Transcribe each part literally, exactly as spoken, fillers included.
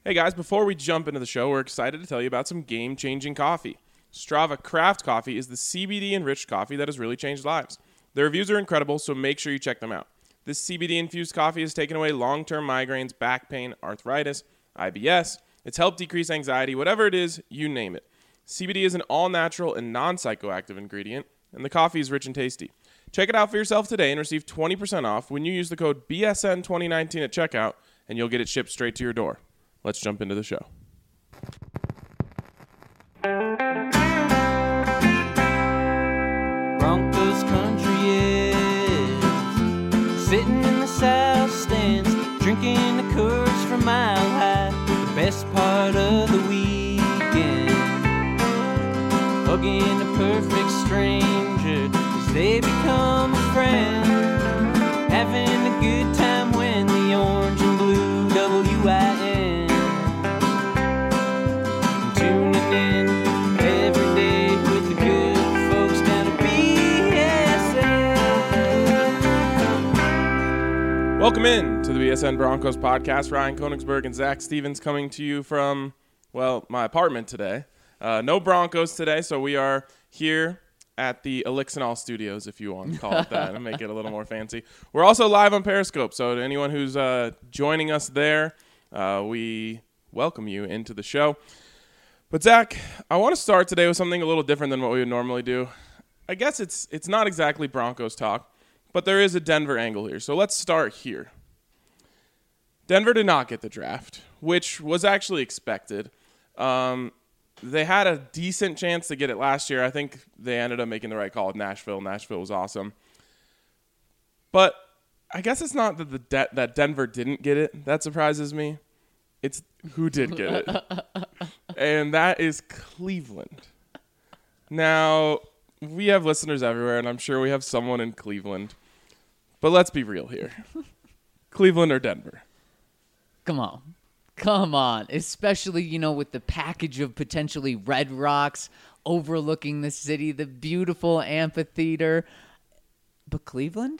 Hey guys, before we jump into the show, we're excited to tell you about some game-changing coffee. Strava Craft Coffee is the C B D-enriched coffee that has really changed lives. Their reviews are incredible, so make sure you check them out. This C B D-infused coffee has taken away long-term migraines, back pain, arthritis, I B S. It's helped decrease anxiety, whatever it is, you name it. C B D is an all-natural and non-psychoactive ingredient, and the coffee is rich and tasty. Check it out for yourself today and receive twenty percent off when you use the code B S N twenty nineteen at checkout, and you'll get it shipped straight to your door. Let's jump into the show. Broncos country is sitting in the south stands, drinking the Coors from Mile High. The best part of the weekend, hugging a perfect stranger as they become a friend, having a good time when the orange and blue W I N tuning in every day with the good folks down at B S N. Welcome in to the B S N Broncos podcast. Ryan Koenigsberg and Zach Stevens coming to you from, well, my apartment today. Uh, no Broncos today, so we are here at the Elixinol Studios, if you want to call it that, and make it a little more fancy. We're also live on Periscope, so to anyone who's uh, joining us there, uh, we welcome you into the show. But Zach, I want to start today with something a little different than what we would normally do. I guess it's it's not exactly Broncos talk, but there is a Denver angle here. So let's start here. Denver did not get the draft, which was actually expected. Um, they had a decent chance to get it last year. I think they ended up making the right call with Nashville. Nashville was awesome. But I guess it's not that the De- that Denver didn't get it that surprises me. It's who did get it. And that is Cleveland. Now, we have listeners everywhere, and I'm sure we have someone in Cleveland. But let's be real here. Cleveland or Denver? Come on. Come on. Especially, you know, with the package of potentially Red Rocks overlooking the city, the beautiful amphitheater. But Cleveland?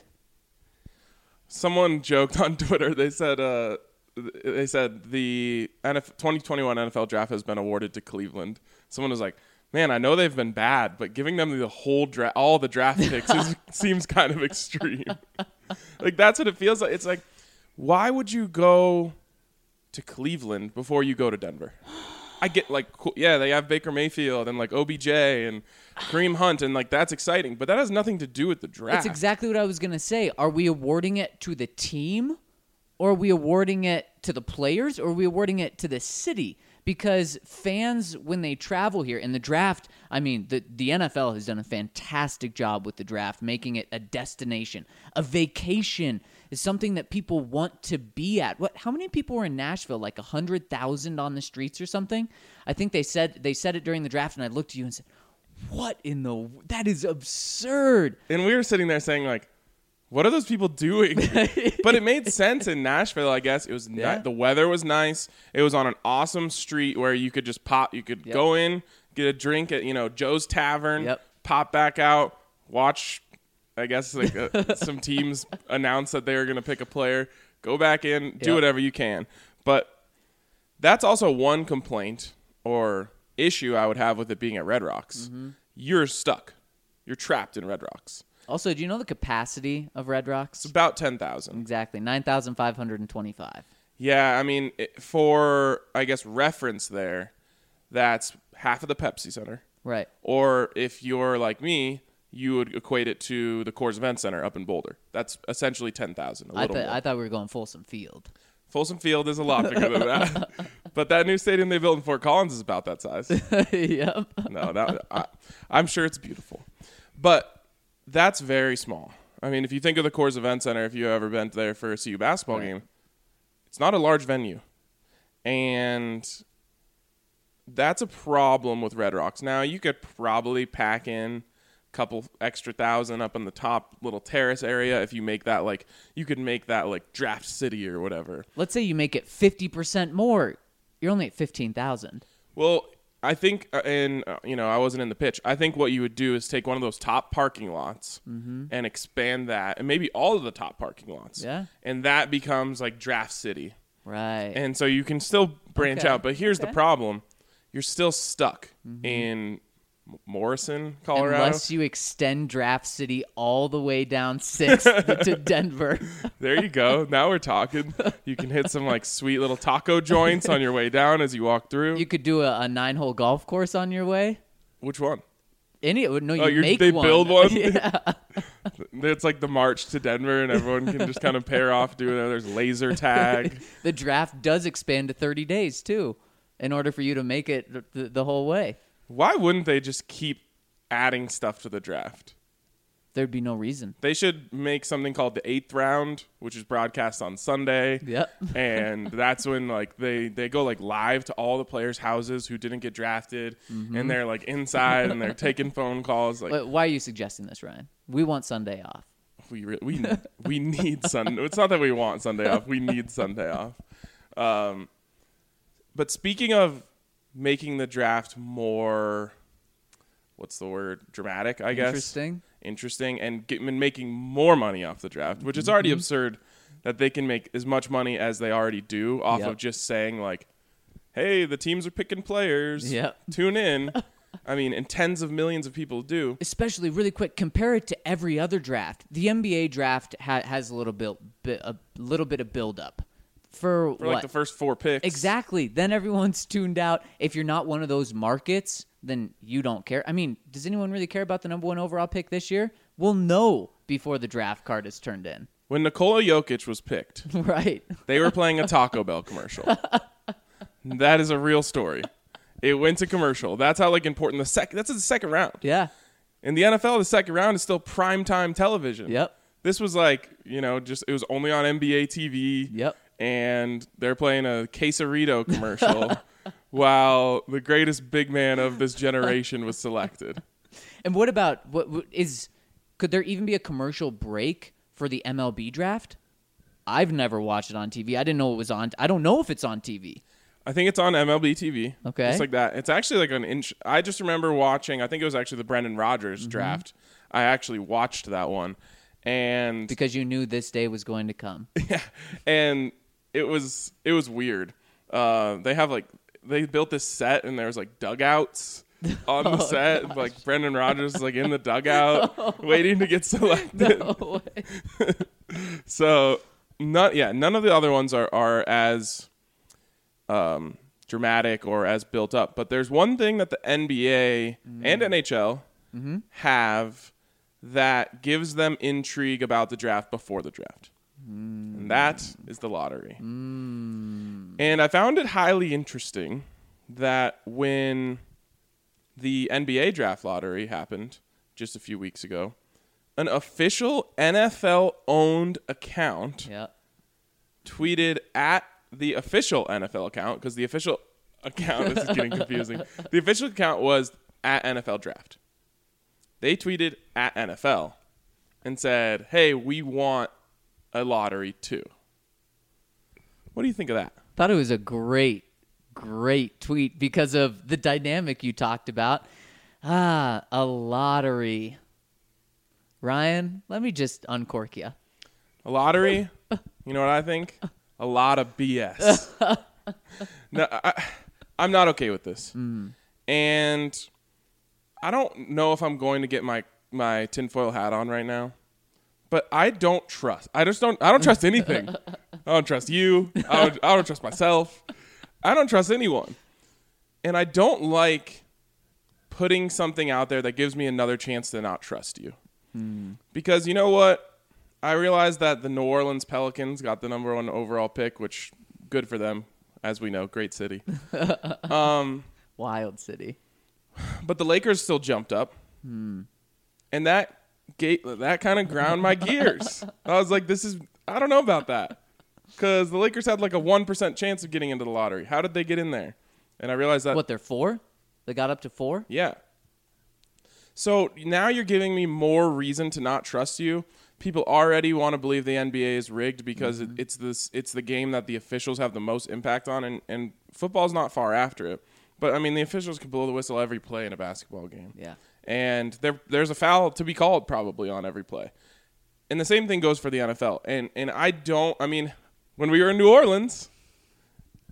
Someone joked on Twitter. They said uh, they said the N F- twenty twenty-one N F L draft has been awarded to Cleveland. Someone was like, man, I know they've been bad, but giving them the whole dra- all the draft picks is, seems kind of extreme. Like, that's what it feels like. It's like, why would you go to Cleveland before you go to Denver? I get, like, cool, yeah, they have Baker Mayfield and, like, O B J and Kareem Hunt, and, like, that's exciting, but that has nothing to do with the draft. That's exactly what I was going to say. Are we awarding it to the team, or are we awarding it to the players, or are we awarding it to the city? Because fans, when they travel here, in the draft, I mean, the, the N F L has done a fantastic job with the draft, making it a destination. A vacation is something that people want to be at. What? How many people were in Nashville? Like one hundred thousand on the streets or something? I think they said they said it during the draft, and I looked at you and said, what in the... That is absurd. And we were sitting there saying, like, what are those people doing? But it made sense in Nashville, I guess. It was Yeah. ni- the weather was nice. It was on an awesome street where you could just pop. You could Yep. go in, get a drink at, you know, Joe's Tavern, Yep. pop back out, watch, I guess, like uh, some teams announce that they were going to pick a player, go back in, do Yep. whatever you can. But that's also one complaint or issue I would have with it being at Red Rocks. Mm-hmm. You're stuck. You're trapped in Red Rocks. Also, do you know the capacity of Red Rocks? It's about ten thousand. Exactly, nine thousand five hundred twenty-five. Yeah, I mean, it, for, I guess, reference there, that's half of the Pepsi Center. Right. Or if you're like me, you would equate it to the Coors Event Center up in Boulder. That's essentially ten thousand, a I, little th- more. I thought we were going Folsom Field. Folsom Field is a lot bigger than that. But that new stadium they built in Fort Collins is about that size. Yep. No, that, I, I'm sure it's beautiful. But that's very small. I mean, if you think of the Coors Event Center, if you've ever been there for a C U basketball Right. game, it's not a large venue. And that's a problem with Red Rocks. Now, you could probably pack in a couple extra thousand up in the top little terrace area if you make that, like, you could make that, like, Draft City or whatever. Let's say you make it fifty percent more. You're only at fifteen thousand. Well, I think, uh, and uh, you know, I wasn't in the pitch. I think what you would do is take one of those top parking lots Mm-hmm. and expand that, and maybe all of the top parking lots. Yeah. And that becomes like Draft City. Right. And so you can still branch Okay. out. But here's Okay. the problem. You're still stuck Mm-hmm. in Morrison, Colorado. Unless you extend Draft City all the way down sixth to Denver. There you go. Now we're talking. You can hit some like sweet little taco joints on your way down as you walk through. You could do a, a nine-hole golf course on your way. Which one? Any? No, you Oh, you're, make they one. build one? Yeah. It's like the march to Denver, and everyone can just kind of pair off, do it. There's laser tag. The draft does expand to thirty days too, in order for you to make it the, the whole way. Why wouldn't they just keep adding stuff to the draft? There'd be no reason. They should make something called the eighth round, which is broadcast on Sunday. Yep. And that's when like they, they go like live to all the players' houses who didn't get drafted, Mm-hmm. and they're like inside and they're taking phone calls. Like Wait, why are you suggesting this, Ryan? We want Sunday off. we re- we we need Sunday. It's not that we want Sunday off. We need Sunday off. Um, but speaking of making the draft more, what's the word? Dramatic, I guess. Interesting. Interesting, and, get, and making more money off the draft, which is already absurd that they can make as much money as they already do off Yep. of just saying like, hey, the teams are picking players. Yep. Tune in. I mean, and tens of millions of people do. Especially really quick, compare it to every other draft. The N B A draft ha- has a little bit, bit, a little bit of build up for, For what? like the first four picks. Exactly. Then everyone's tuned out. If you're not one of those markets, then you don't care. I mean, does anyone really care about the number one overall pick this year? We'll know before the draft card is turned in. When Nikola Jokic was picked, Right. they were playing a Taco Bell commercial. That is a real story. It went to commercial. That's how like important the second. That's the second round. Yeah. In the N F L, the second round is still primetime television. Yep. This was like, you know, just it was only on N B A T V. Yep. And they're playing a Quesarito commercial while the greatest big man of this generation was selected. And what about what, what is? Could there even be a commercial break for the M L B draft? I've never watched it on T V. I didn't know it was on. I don't know if it's on T V. I think it's on M L B T V. Okay. Just like that. It's actually like an inch. I just remember watching, I think it was actually the Brendan Rodgers Mm-hmm. draft. I actually watched that one. And Because you knew this day was going to come. yeah, and it was it was weird. Uh, they have like they built this set and there was like dugouts on the Oh, set. Like Brendan Rodgers is like in the dugout waiting to get selected. No way. So none yeah, none of the other ones are are as um, dramatic or as built up. But there's one thing that the N B A Mm. and N H L Mm-hmm. have that gives them intrigue about the draft before the draft. Mm. And that is the lottery. And I found it highly interesting that when the N B A draft lottery happened just a few weeks ago, an official N F L-owned account Yeah. tweeted at the official N F L account, because the official account, this is getting confusing. The official account was at N F L Draft. They tweeted at N F L and said, hey, we want a lottery too. What do you think of that? Thought it was a great, great tweet because of the dynamic you talked about. Ah, a lottery. Ryan, let me just uncork you. A lottery? You know what I think? A lot of B S. No, I, I'm not okay with this. Mm. And I don't know if I'm going to get my, my tinfoil hat on right now. But I don't trust. I just don't. I don't trust anything. I don't trust you. I don't, I don't trust myself. I don't trust anyone. And I don't like putting something out there that gives me another chance to not trust you. Mm. Because you know what? I realized that the New Orleans Pelicans got the number one overall pick, which good for them, as we know, great city. um, Wild city. but the Lakers still jumped up, Mm. and that. Gate, that kind of ground my gears. I was like, this is, I don't know about that. Because the Lakers had like a one percent chance of getting into the lottery. How did they get in there? And I realized that. What, they're four? They got up to four? Yeah. So now you're giving me more reason to not trust you. People already want to believe the N B A is rigged because Mm-hmm. it, it's this, it's the game that the officials have the most impact on, and, and football's not far after it. But, I mean, the officials can blow the whistle every play in a basketball game. Yeah. And there, there's a foul to be called probably on every play. And the same thing goes for the N F L. And and I don't, I mean, when we were in New Orleans,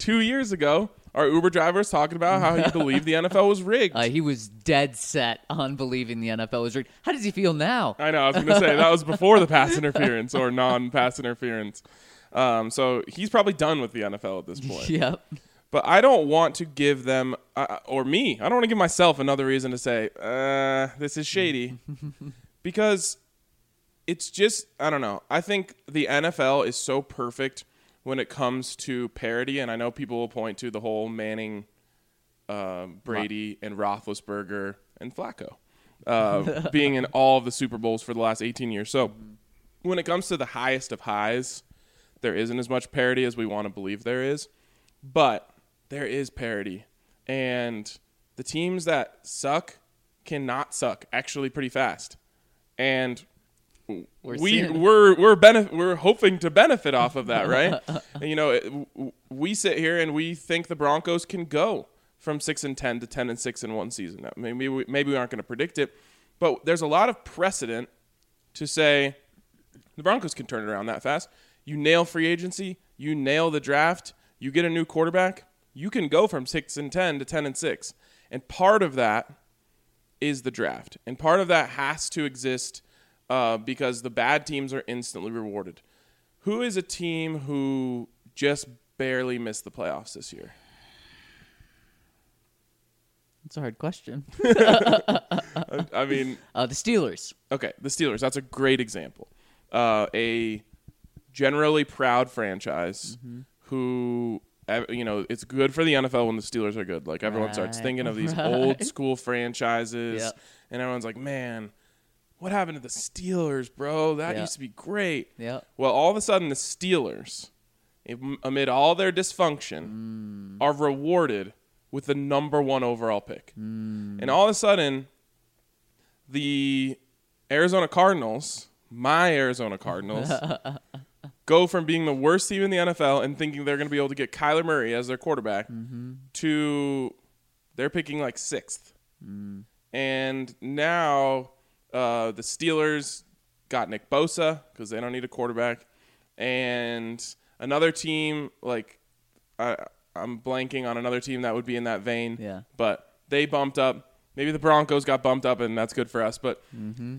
two years ago, our Uber driver was talking about how he believed the N F L was rigged. Uh, he was dead set on believing the N F L was rigged. How does he feel now? I know. I was going to say that was before the pass interference or non-pass interference. Um, so he's probably done with the N F L at this point. Yep. But I don't want to give them, uh, or me, I don't want to give myself another reason to say, uh, this is shady. Because it's just, I don't know. I think the N F L is so perfect when it comes to parity. And I know people will point to the whole Manning, uh, Brady, and Roethlisberger, and Flacco uh, being in all of the Super Bowls for the last eighteen years. So when it comes to the highest of highs, there isn't as much parity as we want to believe there is. But there is parity, and the teams that suck cannot suck actually pretty fast, and We're we seeing- we're we're benef- we're hoping to benefit off of that, right? And, you know, it, w- we sit here and we think the Broncos can go from six and ten to ten and six in one season. Now, maybe we, maybe we aren't going to predict it, but there's a lot of precedent to say the Broncos can turn it around that fast. You nail free agency, you nail the draft, you get a new quarterback. You can go from six and ten to ten and six, and part of that is the draft, and part of that has to exist uh, because the bad teams are instantly rewarded. Who is a team who just barely missed the playoffs this year? That's a hard question. I, I mean, Uh, the Steelers. okay, the Steelers. That's a great example. Uh, a generally proud franchise Mm-hmm. who. You know, it's good for the N F L when the Steelers are good. Like, everyone Right, starts thinking of these right. old school franchises, Yep. and everyone's like, man, what happened to the Steelers, bro? That Yeah. used to be great. Yeah. Well, all of a sudden, the Steelers, am- amid all their dysfunction, Mm. are rewarded with the number one overall pick. Mm. And all of a sudden, the Arizona Cardinals, my Arizona Cardinals, go from being the worst team in the N F L and thinking they're going to be able to get Kyler Murray as their quarterback Mm-hmm. to they're picking like sixth. Mm. And now uh, the Steelers got Nick Bosa because they don't need a quarterback. And another team, like I, I'm blanking on another team that would be in that vein. Yeah. But they bumped up. Maybe the Broncos got bumped up, and that's good for us. But Mm-hmm.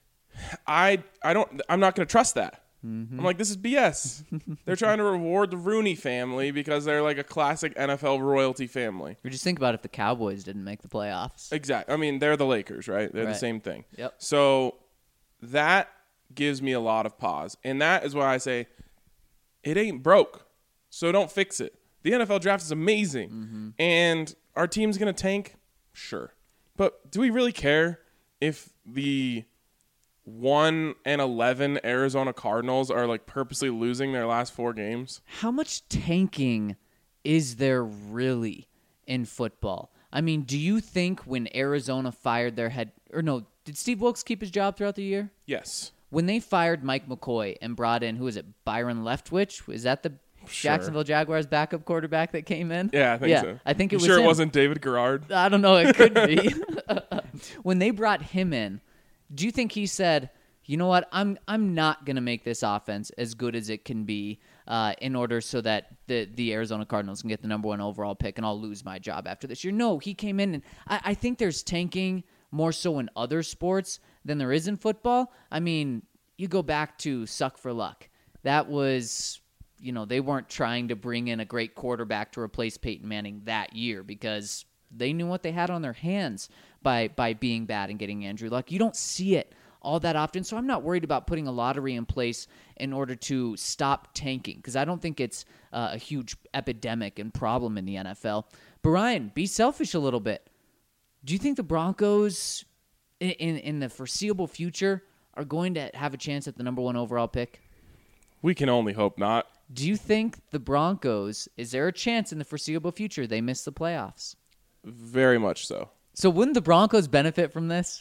I I don't I'm not going to trust that. I'm like, this is B S. They're trying to reward the Rooney family because they're like a classic N F L royalty family. Or just think about if the Cowboys didn't make the playoffs. Exactly. I mean, they're the Lakers, right? They're Right. the same thing. Yep. So that gives me a lot of pause. And that is why I say it ain't broke. So don't fix it. The N F L draft is amazing. Mm-hmm. And our team's going to tank? Sure. But do we really care if the one and eleven Arizona Cardinals are like purposely losing their last four games? How much tanking is there really in football? I mean, do you think when Arizona fired their head, or no, did Steve Wilkes keep his job throughout the year? Yes. When they fired Mike McCoy and brought in, who is it, Byron Leftwich? Is that the Sure. Jacksonville Jaguars backup quarterback that came in? Yeah, I think yeah, so. I think it You was sure him. it wasn't David Garrard? I don't know. It could be. When they brought him in, do you think he said, you know what, I'm I'm not going to make this offense as good as it can be uh, in order so that the, the Arizona Cardinals can get the number one overall pick and I'll lose my job after this year? No, he came in, and I, I think there's tanking more so in other sports than there is in football. I mean, you go back to Suck for Luck. That was... You know, they weren't trying to bring in a great quarterback to replace Peyton Manning that year because they knew what they had on their hands by by being bad and getting Andrew Luck. You don't see it all that often, so I'm not worried about putting a lottery in place in order to stop tanking because I don't think it's uh, a huge epidemic and problem in the N F L. But Ryan, be selfish a little bit. Do you think the Broncos in, in, in the foreseeable future are going to have a chance at the number one overall pick? We can only hope not. Do you think the Broncos, is there a chance in the foreseeable future they miss the playoffs? Very much so. So wouldn't the Broncos benefit from this?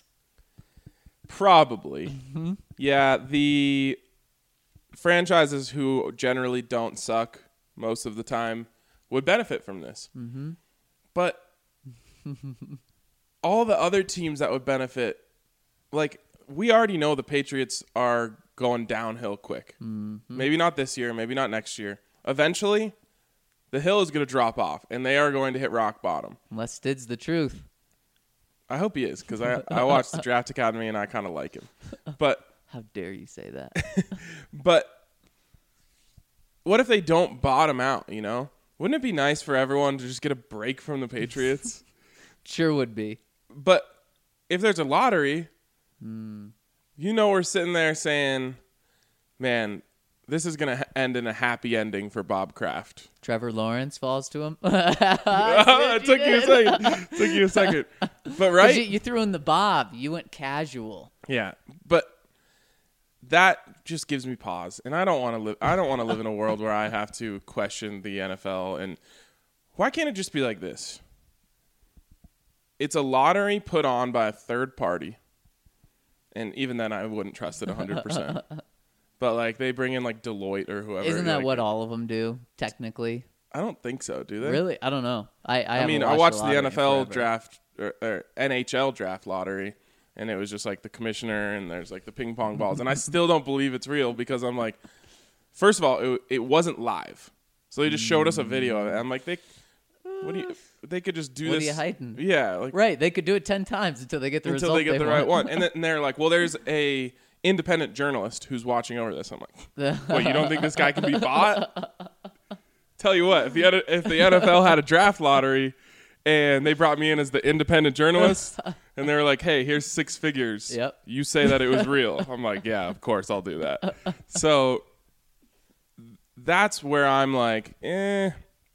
Probably. Yeah, the franchises who generally don't suck most of the time would benefit from this. Mm-hmm. But all the other teams that would benefit, like, we already know the Patriots are going downhill quick. Mm-hmm. Maybe not this year, maybe not next year. Eventually, the hill is going to drop off, and they are going to hit rock bottom. Unless Stid's the truth. I hope he is, because I, I watched the Draft Academy, and I kind of like him. But How dare you say that? but what if they don't bottom out, you know? Wouldn't it be nice for everyone to just get a break from the Patriots? Sure would be. But if there's a lottery, Mm. you know we're sitting there saying, man, this is going to end in a happy ending for Bob Kraft. Trevor Lawrence falls to him. It took you a second. Took you a second. But right? You, you threw in the Bob. You went casual. Yeah. But that just gives me pause. And I don't want to live I don't want to live in a world where I have to question the N F L. And why can't it just be like this? It's a lottery put on by a third party. And even then I wouldn't trust it one hundred percent. But like they bring in like Deloitte or whoever. Isn't that like, what all of them do, technically? I don't think so, do they? Really? I don't know. I I, I mean, I haven't watched watched the N F L lottery in forever. draft or, or N H L draft lottery, and it was just like the commissioner and there's like the ping pong balls, and I still don't believe it's real because I'm like, first of all, it, it wasn't live, so they just showed us a video of it. I'm like, they, what do you? They could just do What are this. you hiding? Yeah, like Right. They could do it ten times until they get the until result they get the want. right one, and then and they're like, well, there's a independent journalist who's watching over this. I'm like, what? You don't think this guy can be bought? Tell you what, if the if the N F L had a draft lottery and they brought me in as the independent journalist and they were like, hey, here's six figures. Yep. You say that it was real. I'm like, yeah, of course I'll do that. So that's where I'm like, eh,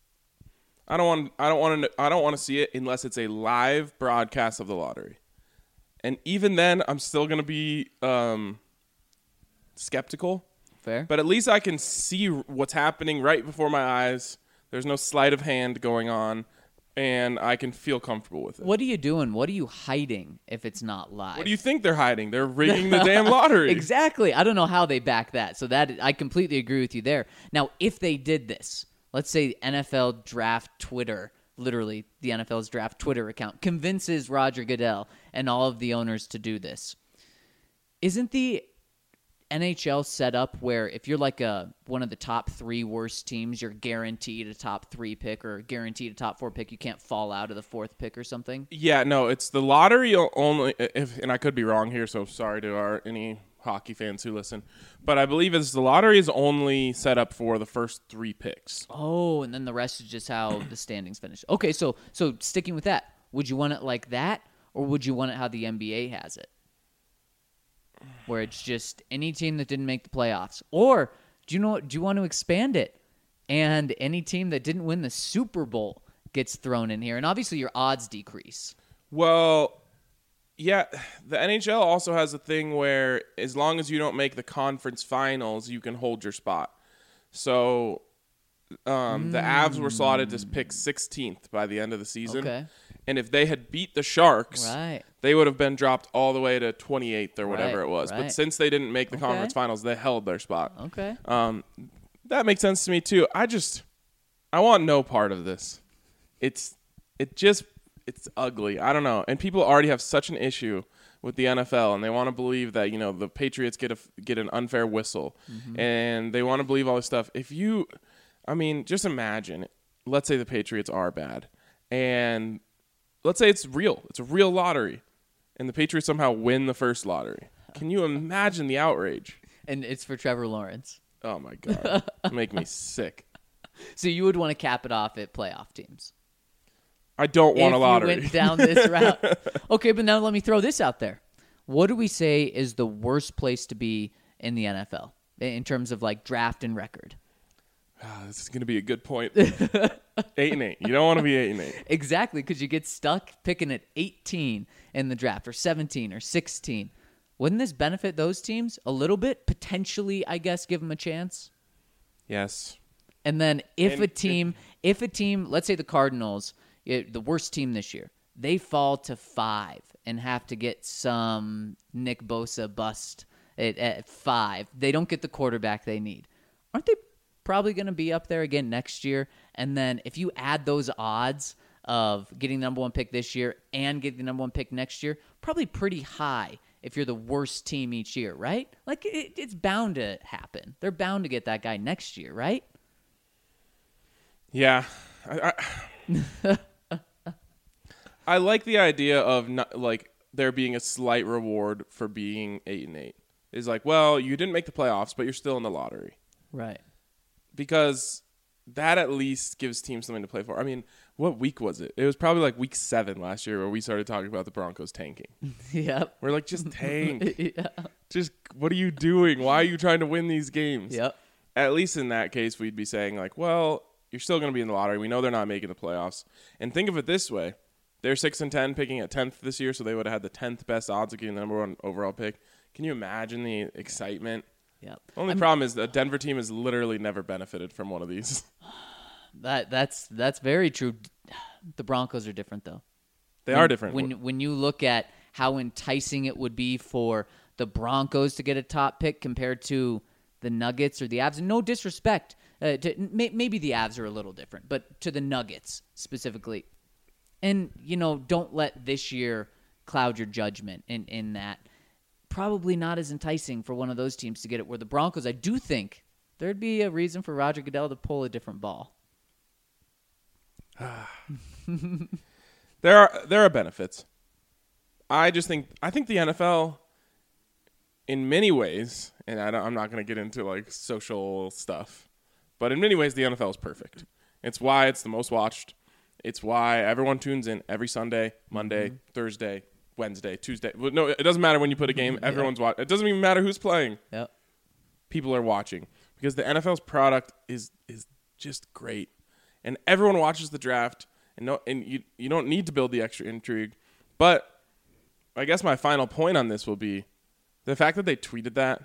I don't want I don't want to I don't want to see it unless it's a live broadcast of the lottery. And even then, I'm still going to be um, skeptical. Fair. But at least I can see what's happening right before my eyes. There's no sleight of hand going on, and I can feel comfortable with it. What are you doing? What are you hiding if it's not live? What do you think they're hiding? They're rigging the damn lottery. Exactly. I don't know how they back that. So that I completely agree with you there. Now, if they did this, let's say N F L Draft Twitter, literally the N F L's Draft Twitter account, convinces Roger Goodell and all of the owners to do this. Isn't the N H L set up where if you're like a one of the top three worst teams, you're guaranteed a top three pick or guaranteed a top four pick? You can't fall out of the fourth pick or something? Yeah, no, it's the lottery only. If and I could be wrong here, so sorry to our any hockey fans who listen, but I believe it's the lottery is only set up for the first three picks. Oh, and then the rest is just how the standings finish. Okay, so so sticking with that, would you want it like that, or would you want it how the N B A has it, where it's just any team that didn't make the playoffs? Or do you know? Do you want to expand it, and any team that didn't win the Super Bowl gets thrown in here, and obviously your odds decrease? Well, yeah, the N H L also has a thing where as long as you don't make the conference finals, you can hold your spot. So um, the Avs were slotted to pick sixteenth by the end of the season. Okay. And if they had beat the Sharks, Right. they would have been dropped all the way to twenty-eighth or whatever Right, it was. right. But since they didn't make the Okay. conference finals, they held their spot. Okay. Um, that makes sense to me too. I just, I want no part of this. It's, it just, it's ugly. I don't know. And people already have such an issue with the N F L, and they want to believe that, you know, the Patriots get a get an unfair whistle, Mm-hmm. and they want to believe all this stuff. If you, I mean, just imagine. Let's say the Patriots are bad, and let's say it's real. It's a real lottery, and the Patriots somehow win the first lottery. Can you imagine the outrage? And it's for Trevor Lawrence. Oh my god, make me sick. So you would want to cap it off at playoff teams. I don't want if a lottery. you went down this route. Okay, but now let me throw this out there. What do we say is the worst place to be in the N F L in terms of like draft and record? Ah, this is going to be a good point. eight and eight. You don't want to be eight and eight. Exactly, because you get stuck picking at eighteen in the draft or seventeen or sixteen. Wouldn't this benefit those teams a little bit? Potentially, I guess, give them a chance. Yes. And then if And- a team, if a team, let's say the Cardinals, it, the worst team this year, they fall to five and have to get some Nick Bosa bust at, at five. They don't get the quarterback they need. Aren't they probably going to be up there again next year? And then if you add those odds of getting the number one pick this year and getting the number one pick next year, probably pretty high if you're the worst team each year, right? Like it, it's bound to happen. They're bound to get that guy next year, right? Yeah. I, I, I like the idea of not, like there being a slight reward for being eight and eight. Is like, well, you didn't make the playoffs, but you're still in the lottery. Right. Because that at least gives teams something to play for. I mean, what week was it? It was probably like week seven last year where we started talking about the Broncos tanking. Yep. We're like, just tank. Yeah. Just, what are you doing? Why are you trying to win these games? Yep. At least in that case, we'd be saying like, well, you're still going to be in the lottery. We know they're not making the playoffs. And think of it this way. They're six and ten, picking at tenth this year, so they would have had the tenth best odds of getting the number one overall pick. Can you imagine the excitement? Yep. Only I'm- problem is the Denver team has literally never benefited from one of these. That that's that's very true. The Broncos are different though. They when, are different. When when you look at how enticing it would be for the Broncos to get a top pick compared to the Nuggets or the Avs, and no disrespect, uh, to, may, maybe the Avs are a little different, but to the Nuggets specifically. And, you know, don't let this year cloud your judgment in, in that. Probably not as enticing for one of those teams to get it, where the Broncos, I do think there'd be a reason for Roger Goodell to pull a different ball. There are there are benefits. I just think I think the N F L, in many ways, and I don't, I'm not going to get into like social stuff, but in many ways the N F L is perfect. It's why it's the most watched. It's why everyone tunes in every Sunday, Monday, mm-hmm. Thursday, Wednesday, Tuesday. Well, no, it doesn't matter when you put a game. Everyone's yeah. watching. It doesn't even matter who's playing. Yep. People are watching because the N F L's product is is just great, and everyone watches the draft. And no, and you you don't need to build the extra intrigue. But I guess my final point on this will be the fact that they tweeted that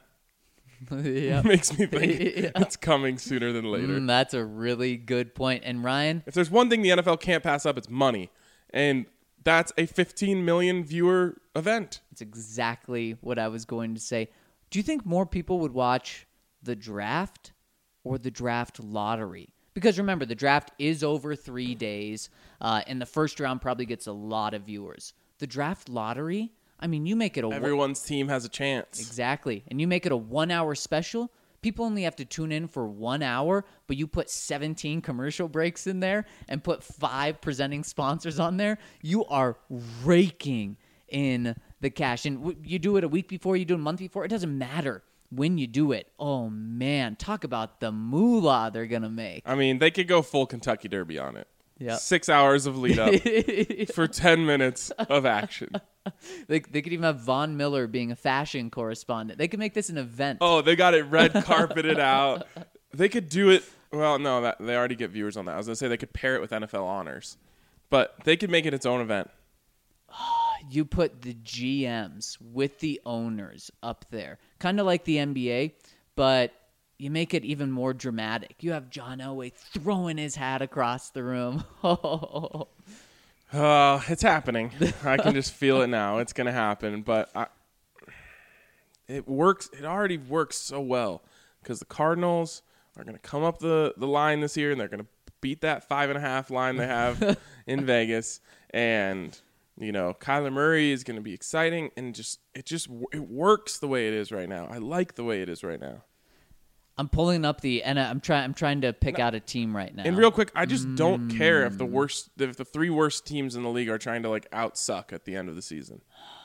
makes me think yeah. it's coming sooner than later. Mm, that's a really good point. And Ryan, if there's one thing the N F L can't pass up, it's money. And that's a fifteen million viewer event. It's exactly what I was going to say. Do you think more people would watch the draft or the draft lottery? Because remember, the draft is over three days, uh, and the first round probably gets a lot of viewers. The draft lottery, I mean, you make it a... Everyone's one, team has a chance. Exactly. And you make it a one-hour special, people only have to tune in for one hour, but you put seventeen commercial breaks in there and put five presenting sponsors on there, you are raking in the cash. And w- you do it a week before, you do it a month before, it doesn't matter. When you do it, oh man, talk about the moolah they're going to make. I mean, they could go full Kentucky Derby on it. Yep. Six hours of lead up for ten minutes of action. They, they could even have Von Miller being a fashion correspondent. They could make this an event. Oh, they got it red carpeted out. They could do it. Well, no, that, they already get viewers on that. I was going to say they could pair it with N F L honors. But they could make it its own event. You put the G Ms with the owners up there, kind of like the N B A, but you make it even more dramatic. You have John Elway throwing his hat across the room. Oh, uh, it's happening. I can just feel it now. It's going to happen, but I, it works. It already works so well because the Cardinals are going to come up the, the line this year, and they're going to beat that five and a half line they have in Vegas, and you know, Kyler Murray is going to be exciting, and just it just it works the way it is right now. I like the way it is right now. I'm pulling up the and I'm trying. I'm trying to pick out a team right now. And real quick, I just mm. don't care if the worst, if the three worst teams in the league are trying to like out suck at the end of the season.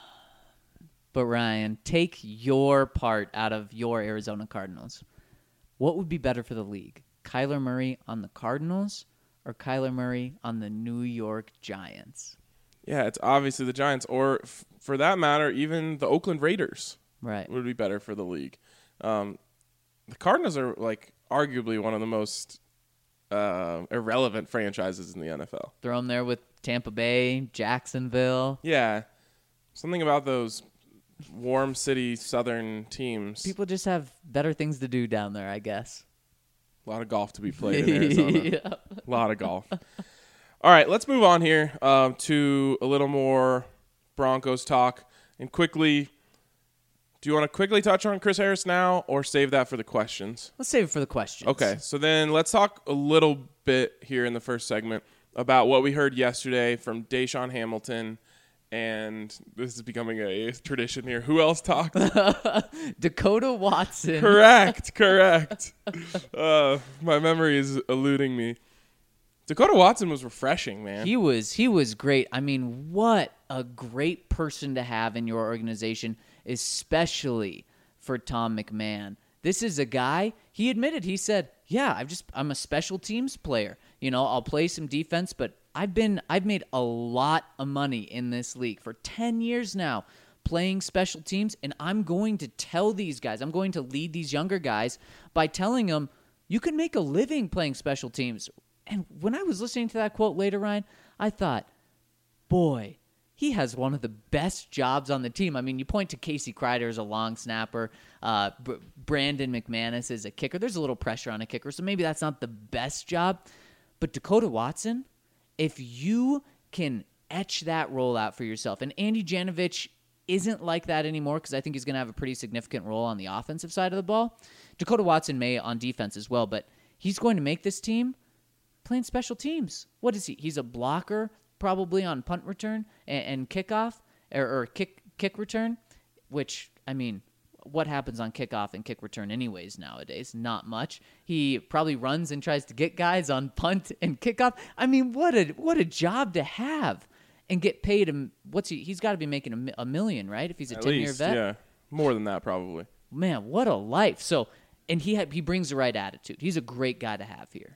But Ryan, take your part out of your Arizona Cardinals. What would be better for the league? Kyler Murray on the Cardinals or Kyler Murray on the New York Giants? Yeah, it's obviously the Giants, or f- for that matter, even the Oakland Raiders. Right, would be better for the league. Um, the Cardinals are like arguably one of the most uh, irrelevant franchises in the N F L. Throw them there with Tampa Bay, Jacksonville. Yeah, something about those warm city southern teams. People just have better things to do down there, I guess. A lot of golf to be played in Arizona. Yeah. A lot of golf. All right, let's move on here um, to a little more Broncos talk. And quickly, do you want to quickly touch on Chris Harris now or save that for the questions? Let's save it for the questions. Okay, so then let's talk a little bit here in the first segment about what we heard yesterday from Deshaun Hamilton. And this is becoming a tradition here. Who else talked? Dakota Watson. Correct, correct. uh, my memory is eluding me. Dakota Watson was refreshing, man. He was he was great. I mean, what a great person to have in your organization, especially for Tom McMahon. This is a guy, he admitted, he said, yeah, I've just I'm a special teams player. You know, I'll play some defense, but I've been I've made a lot of money in this league for ten years now playing special teams, and I'm going to tell these guys, I'm going to lead these younger guys by telling them you can make a living playing special teams. And when I was listening to that quote later, Ryan, I thought, boy, he has one of the best jobs on the team. I mean, you point to Casey Kreider as a long snapper. Uh, B- Brandon McManus is a kicker. There's a little pressure on a kicker, so maybe that's not the best job. But Dakota Watson, if you can etch that role out for yourself, and Andy Janovich isn't like that anymore because I think he's going to have a pretty significant role on the offensive side of the ball. Dakota Watson may on defense as well, but he's going to make this team playing special teams. What is he? He's a blocker, probably on punt return and, and kickoff or, or kick kick return. Which I mean, what happens on kickoff and kick return anyways nowadays? Not much. He probably runs and tries to get guys on punt and kickoff. I mean, what a what a job to have and get paid. A, what's he? He's got to be making a, a million, right? If he's a At ten-year least, vet. yeah, more than that probably. Man, what a life. So, and he ha- he brings the right attitude. He's a great guy to have here.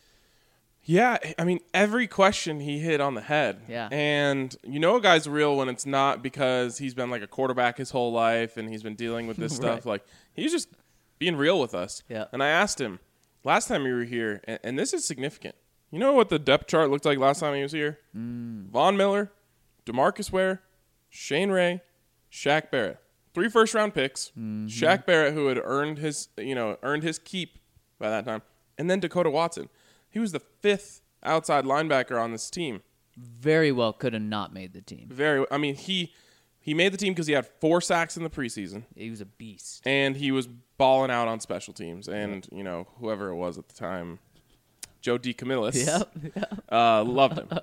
Yeah, I mean, every question he hit on the head. Yeah. And you know a guy's real when it's not because he's been like a quarterback his whole life and he's been dealing with this stuff. Right. Like, he's just being real with us. Yeah. And I asked him, last time you were here, and, and this is significant. You know what the depth chart looked like last time he was here? Mm. Von Miller, DeMarcus Ware, Shane Ray, Shaq Barrett. Three first-round picks. Mm-hmm. Shaq Barrett, who had earned his, you know, earned his keep by that time. And then Dakota Watson. He was the fifth outside linebacker on this team. Very well could have not made the team. Very. I mean, he he made the team because he had four sacks in the preseason. He was a beast. And he was balling out on special teams. And, you know, whoever it was at the time, Joe DeCamillis, Yep. yep. uh, loved him.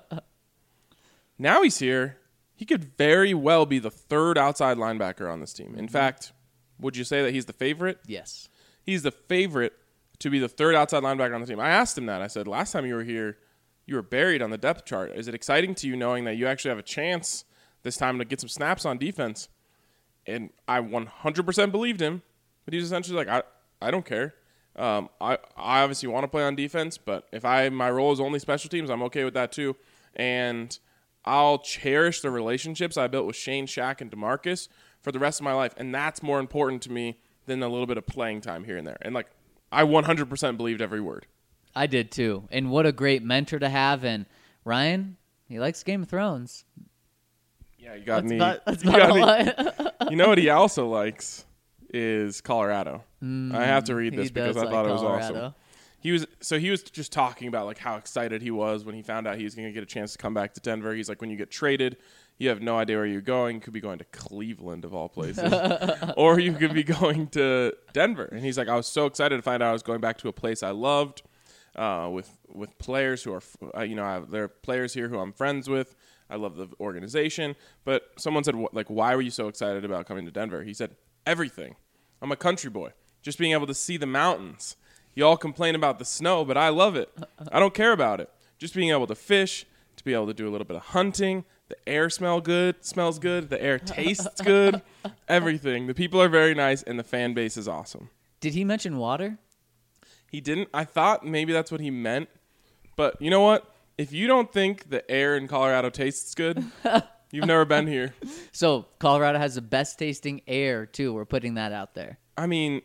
Now he's here. He could very well be the third outside linebacker on this team. In fact, would you say that he's the favorite? Yes. He's the favorite to be the third outside linebacker on the team. I asked him that. I said, last time you were here, you were buried on the depth chart. Is it exciting to you knowing that you actually have a chance this time to get some snaps on defense? And I one hundred percent believed him, but he's essentially like, I, I don't care. Um, I, I obviously want to play on defense, but if I my role is only special teams, I'm okay with that too. And I'll cherish the relationships I built with Shane, Shaq, and DeMarcus for the rest of my life, and that's more important to me than a little bit of playing time here and there. And, like, I one hundred percent believed every word. I did too. And what a great mentor to have. And Ryan, he likes Game of Thrones. Yeah, you got That's me. about, that's you, about got all me. I- You know what he also likes is Colorado. Mm, I have to read this he because does I thought like it was Colorado. awesome. He was so he was just talking about like how excited he was when he found out he was going to get a chance to come back to Denver. He's like, when you get traded, you have no idea where you're going. You could be going to Cleveland of all places, or you could be going to Denver. And he's like, I was so excited to find out I was going back to a place I loved, uh, with with players who are, uh, you know, I have, there are players here who I'm friends with. I love the organization. But someone said, like, why were you so excited about coming to Denver? He said, everything. I'm a country boy. Just being able to see the mountains. You all complain about the snow, but I love it. I don't care about it. Just being able to fish, to be able to do a little bit of hunting. The air smell good, smells good. The air tastes good. Everything. The people are very nice, and the fan base is awesome. Did he mention water? He didn't. I thought maybe that's what he meant. But you know what? If you don't think the air in Colorado tastes good, you've never been here. So Colorado has the best tasting air, too. We're putting that out there. I mean,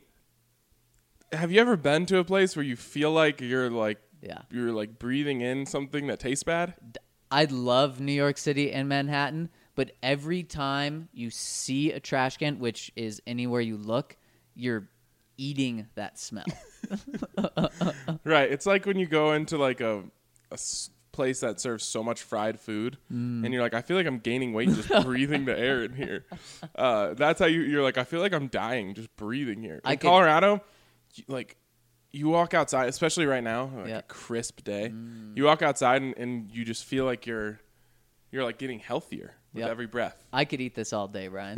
have you ever been to a place where you feel like you're like Yeah. you're like breathing in something that tastes bad? I love New York City and Manhattan, but every time you see a trash can, which is anywhere you look, you're eating that smell. Right. It's like when you go into like a, a s- place that serves so much fried food, Mm. and you're like, I feel like I'm gaining weight just breathing the air in here. Uh, that's how you, you're like, I feel like I'm dying just breathing here. In I could- Colorado, you, like, you walk outside, especially right now, like Yeah. a crisp day. Mm. You walk outside and, and you just feel like you're you're like getting healthier with Yep. every breath. I could eat this all day, Ryan.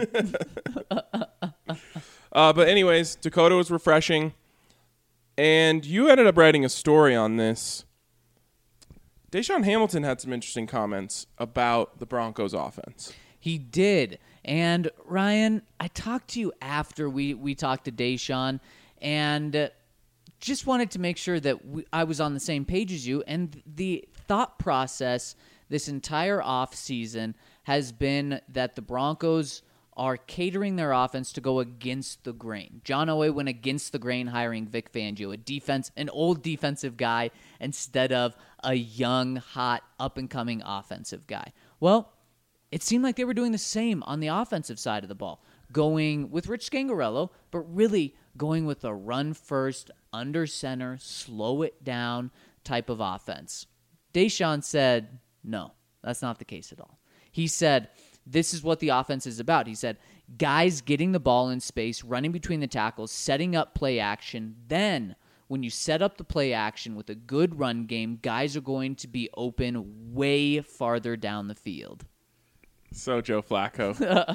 Uh, but anyways, Dakota was refreshing, and you ended up writing a story on this. Deshaun Hamilton had some interesting comments about the Broncos offense. He did. And Ryan, I talked to you after we, we talked to Deshaun, and uh, just wanted to make sure that we, I was on the same page as you. And the thought process this entire offseason has been that the Broncos are catering their offense to go against the grain. John Elway went against the grain hiring Vic Fangio, a defense, an old defensive guy, instead of a young, hot, up-and-coming offensive guy. Well, it seemed like they were doing the same on the offensive side of the ball, going with Rich Scangarello, but really going with a run-first, under-center, slow it down type of offense. Deshaun said, no, that's not the case at all. He said, this is what the offense is about. He said, guys getting the ball in space, running between the tackles, setting up play action. Then, when you set up the play action with a good run game, guys are going to be open way farther down the field. So Joe Flacco.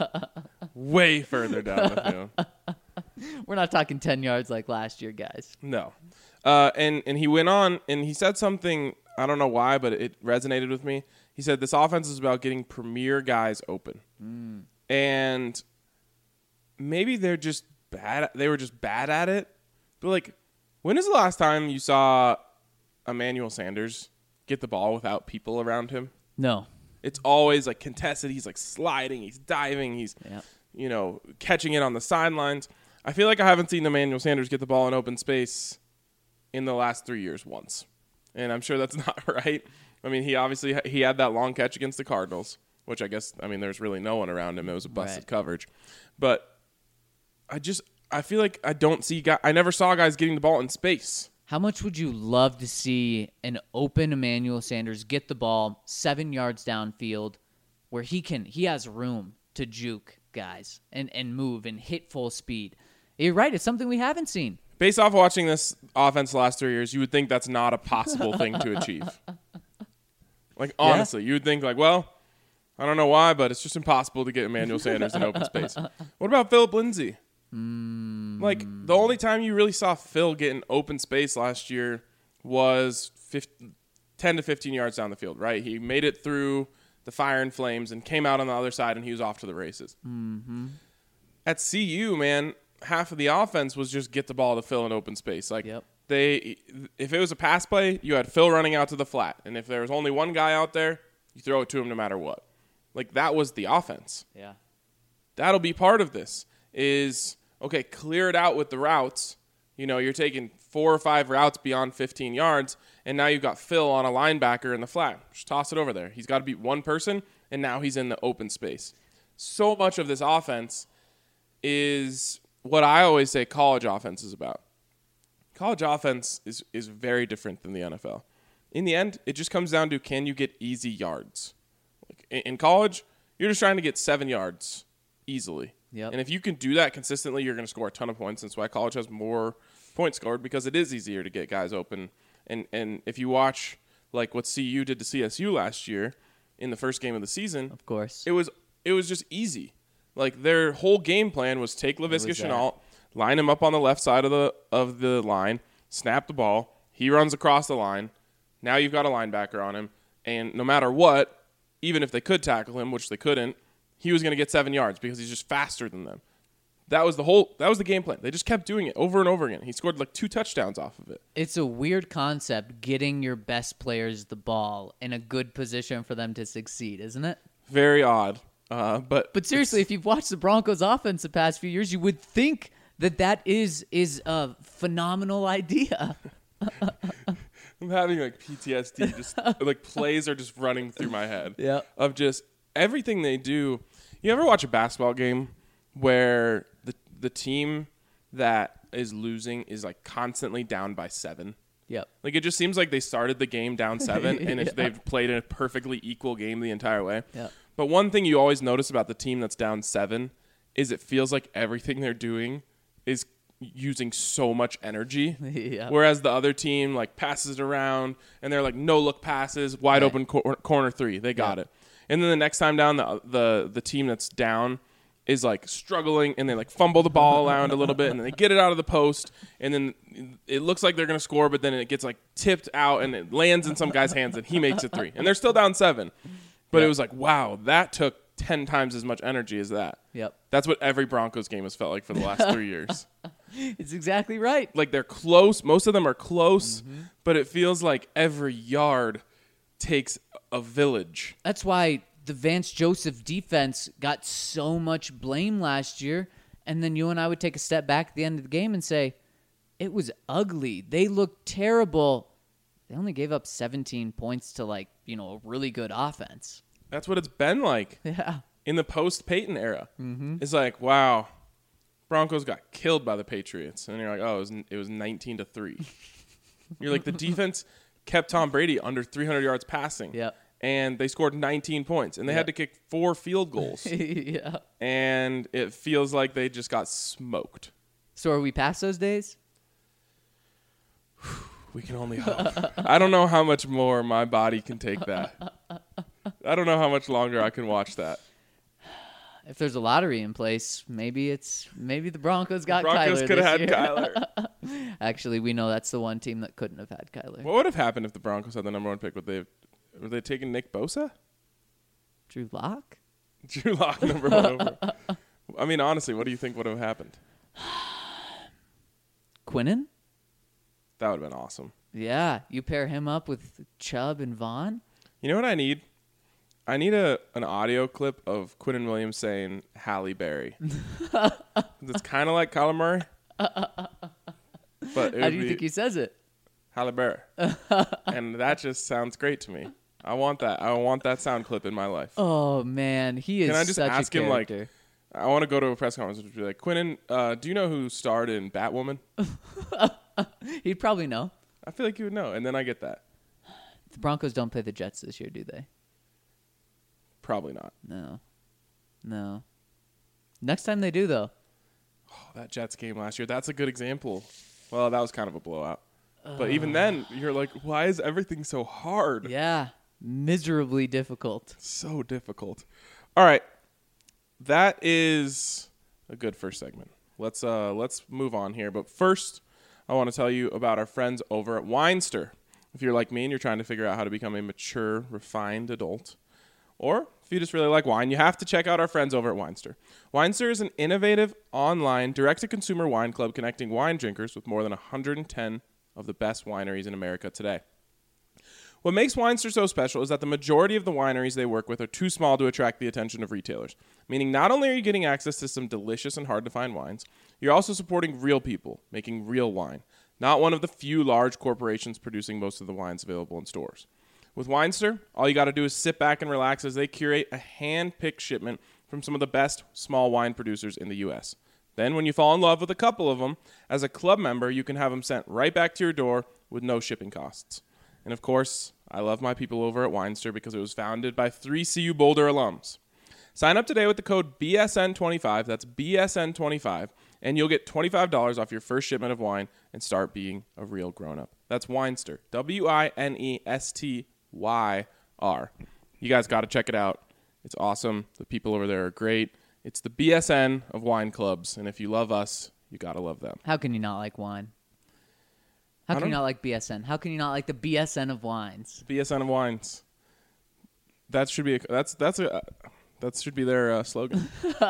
Way further down the field. We're not talking ten yards like last year, guys. No. Uh, and, and he went on, and he said something, I don't know why, but it resonated with me. He said this offense is about getting premier guys open. Mm. And maybe they're just bad. They were just bad at it. But, like, when is the last time you saw Emmanuel Sanders get the ball without people around him? No. It's always, like, contested. He's, like, sliding. He's diving. He's, yep. you know, catching it on the sidelines. I feel like I haven't seen Emmanuel Sanders get the ball in open space in the last three years once. And I'm sure that's not right. I mean, he obviously he had that long catch against the Cardinals, which I guess, I mean, there's really no one around him. It was a busted right. coverage. But I just, I feel like I don't see guys, I never saw guys getting the ball in space. How much would you love to see an open Emmanuel Sanders get the ball seven yards downfield where he can, he has room to juke guys and, and move and hit full speed? You're right. It's something we haven't seen. Based off watching this offense the last three years, you would think that's not a possible thing to achieve. Like, honestly, yeah. you would think, like, well, I don't know why, but it's just impossible to get Emmanuel Sanders in open space. What about Phillip Lindsay? Mm. Like, the only time you really saw Phil get in open space last year was fifteen, ten to fifteen yards down the field, right? He made it through the fire and flames and came out on the other side, and he was off to the races. Mm-hmm. At C U, man, half of the offense was just get the ball to Phil in open space. Like, yep. They, if it was a pass play, you had Phil running out to the flat. And if there was only one guy out there, you throw it to him no matter what. Like, that was the offense. Yeah. That'll be part of this is, okay, clear it out with the routes. You know, you're taking four or five routes beyond fifteen yards, and now you've got Phil on a linebacker in the flat. Just toss it over there. He's got to beat one person, and now he's in the open space. So much of this offense is what I always say college offense is about. College offense is, is very different than the N F L. In the end, it just comes down to, can you get easy yards? Like in, in college, you're just trying to get seven yards easily. Yep. And if you can do that consistently, you're going to score a ton of points. That's why college has more points scored, because it is easier to get guys open. And and if you watch like what C U did to C S U last year in the first game of the season, of course, it was it was just easy. Like, their whole game plan was take Laviska Shenault, line him up on the left side of the of the line, snap the ball. He runs across the line. Now you've got a linebacker on him. And no matter what, even if they could tackle him, which they couldn't, he was going to get seven yards because he's just faster than them. That was the whole. That was the game plan. They just kept doing it over and over again. He scored like two touchdowns off of it. It's a weird concept, getting your best players the ball in a good position for them to succeed, isn't it? Very odd. Uh, but but seriously, if you've watched the Broncos offense the past few years, you would think that that is is a phenomenal idea. I'm having like P T S D. Just like plays are just running through my head. Yeah. Of just everything they do. You ever watch a basketball game where the the team that is losing is like constantly down by seven? Yep. Like, it just seems like they started the game down seven, and yeah. if they've played a perfectly equal game the entire way. Yep. But one thing you always notice about the team that's down seven is it feels like everything they're doing is using so much energy. Yeah. Whereas the other team, like, passes it around, and they're like no-look passes, wide right. open cor- corner three. They got yeah. it. And then the next time down, the, the the team that's down is like struggling, and they like fumble the ball around a little bit, and then they get it out of the post, and then it looks like they're going to score, but then it gets like tipped out and it lands in some guy's hands and he makes it three. And they're still down seven. But yep. It was like, wow, that took ten times as much energy as that. Yep. That's what every Broncos game has felt like for the last three years. It's exactly right. Like they're close. Most of them are close, mm-hmm. but it feels like every yard takes a village. That's why the Vance Joseph defense got so much blame last year, and then you and I would take a step back at the end of the game and say, it was ugly. They looked terrible. They only gave up seventeen points to, like, you know, a really good offense. That's what it's been like. Yeah. In the post-Peyton era. Mm-hmm. It's like, wow, Broncos got killed by the Patriots. And you're like, oh, it was, it was nineteen to three. You're like, the defense kept Tom Brady under three hundred yards passing. Yep. And they scored nineteen points. And they yep. had to kick four field goals. Yeah. And it feels like they just got smoked. So are we past those days? We can only hope. I don't know how much more my body can take that. I don't know how much longer I can watch that. If there's a lottery in place, maybe it's maybe the Broncos got the Broncos Kyler could have had year. Kyler. Actually, we know that's the one team that couldn't have had Kyler. What would have happened if the Broncos had the number one pick? Would they were they taking Nick Bosa? Drew Lock? Drew Lock number one over. I mean, honestly, what do you think would have happened? Quinnen? That would have been awesome. Yeah, you pair him up with Chubb and Vaughn. You know what I need? I need a an audio clip of Quinnen Williams saying Halle Berry. It's kind of like Kyler Murray. But how do you think he says it? Halle Berry. And that just sounds great to me. I want that. I want that sound clip in my life. Oh man, he is. Can I just such ask a him like? character. I want to go to a press conference and be like, Quinnen, uh, do you know who starred in Batwoman? He'd probably know. I feel like he would know, and then I get that. The Broncos don't play the Jets this year, do they? Probably not. No. No. Next time they do, though. Oh, that Jets game last year, that's a good example. Well, that was kind of a blowout. Uh, but even then, you're like, why is everything so hard? Yeah. Miserably difficult. So difficult. All right. That is a good first segment. Let's uh let's move on here. But first, I want to tell you about our friends over at Winester. If you're like me and you're trying to figure out how to become a mature, refined adult, or if you just really like wine, you have to check out our friends over at Winester. Winester is an innovative, online, direct-to-consumer wine club connecting wine drinkers with more than one hundred ten of the best wineries in America today. What makes Winester so special is that the majority of the wineries they work with are too small to attract the attention of retailers, meaning not only are you getting access to some delicious and hard-to-find wines, you're also supporting real people making real wine, not one of the few large corporations producing most of the wines available in stores. With Winester, all you got to do is sit back and relax as they curate a hand-picked shipment from some of the best small wine producers in the U S. Then, when you fall in love with a couple of them, as a club member, you can have them sent right back to your door with no shipping costs. And of course, I love my people over at Winester because it was founded by three C U Boulder alums. Sign up today with the code B S N twenty-five, that's B S N twenty-five, and you'll get twenty-five dollars off your first shipment of wine and start being a real grown-up. That's Winester, W I N E S T Y R. You guys got to check it out. It's awesome. The people over there are great. It's the B S N of wine clubs, and if you love us, you got to love them. How can you not like wine? How can you not like B S N? How can you not like the B S N of wines? B S N of wines. That should be a, that's that's a that should be their uh, slogan.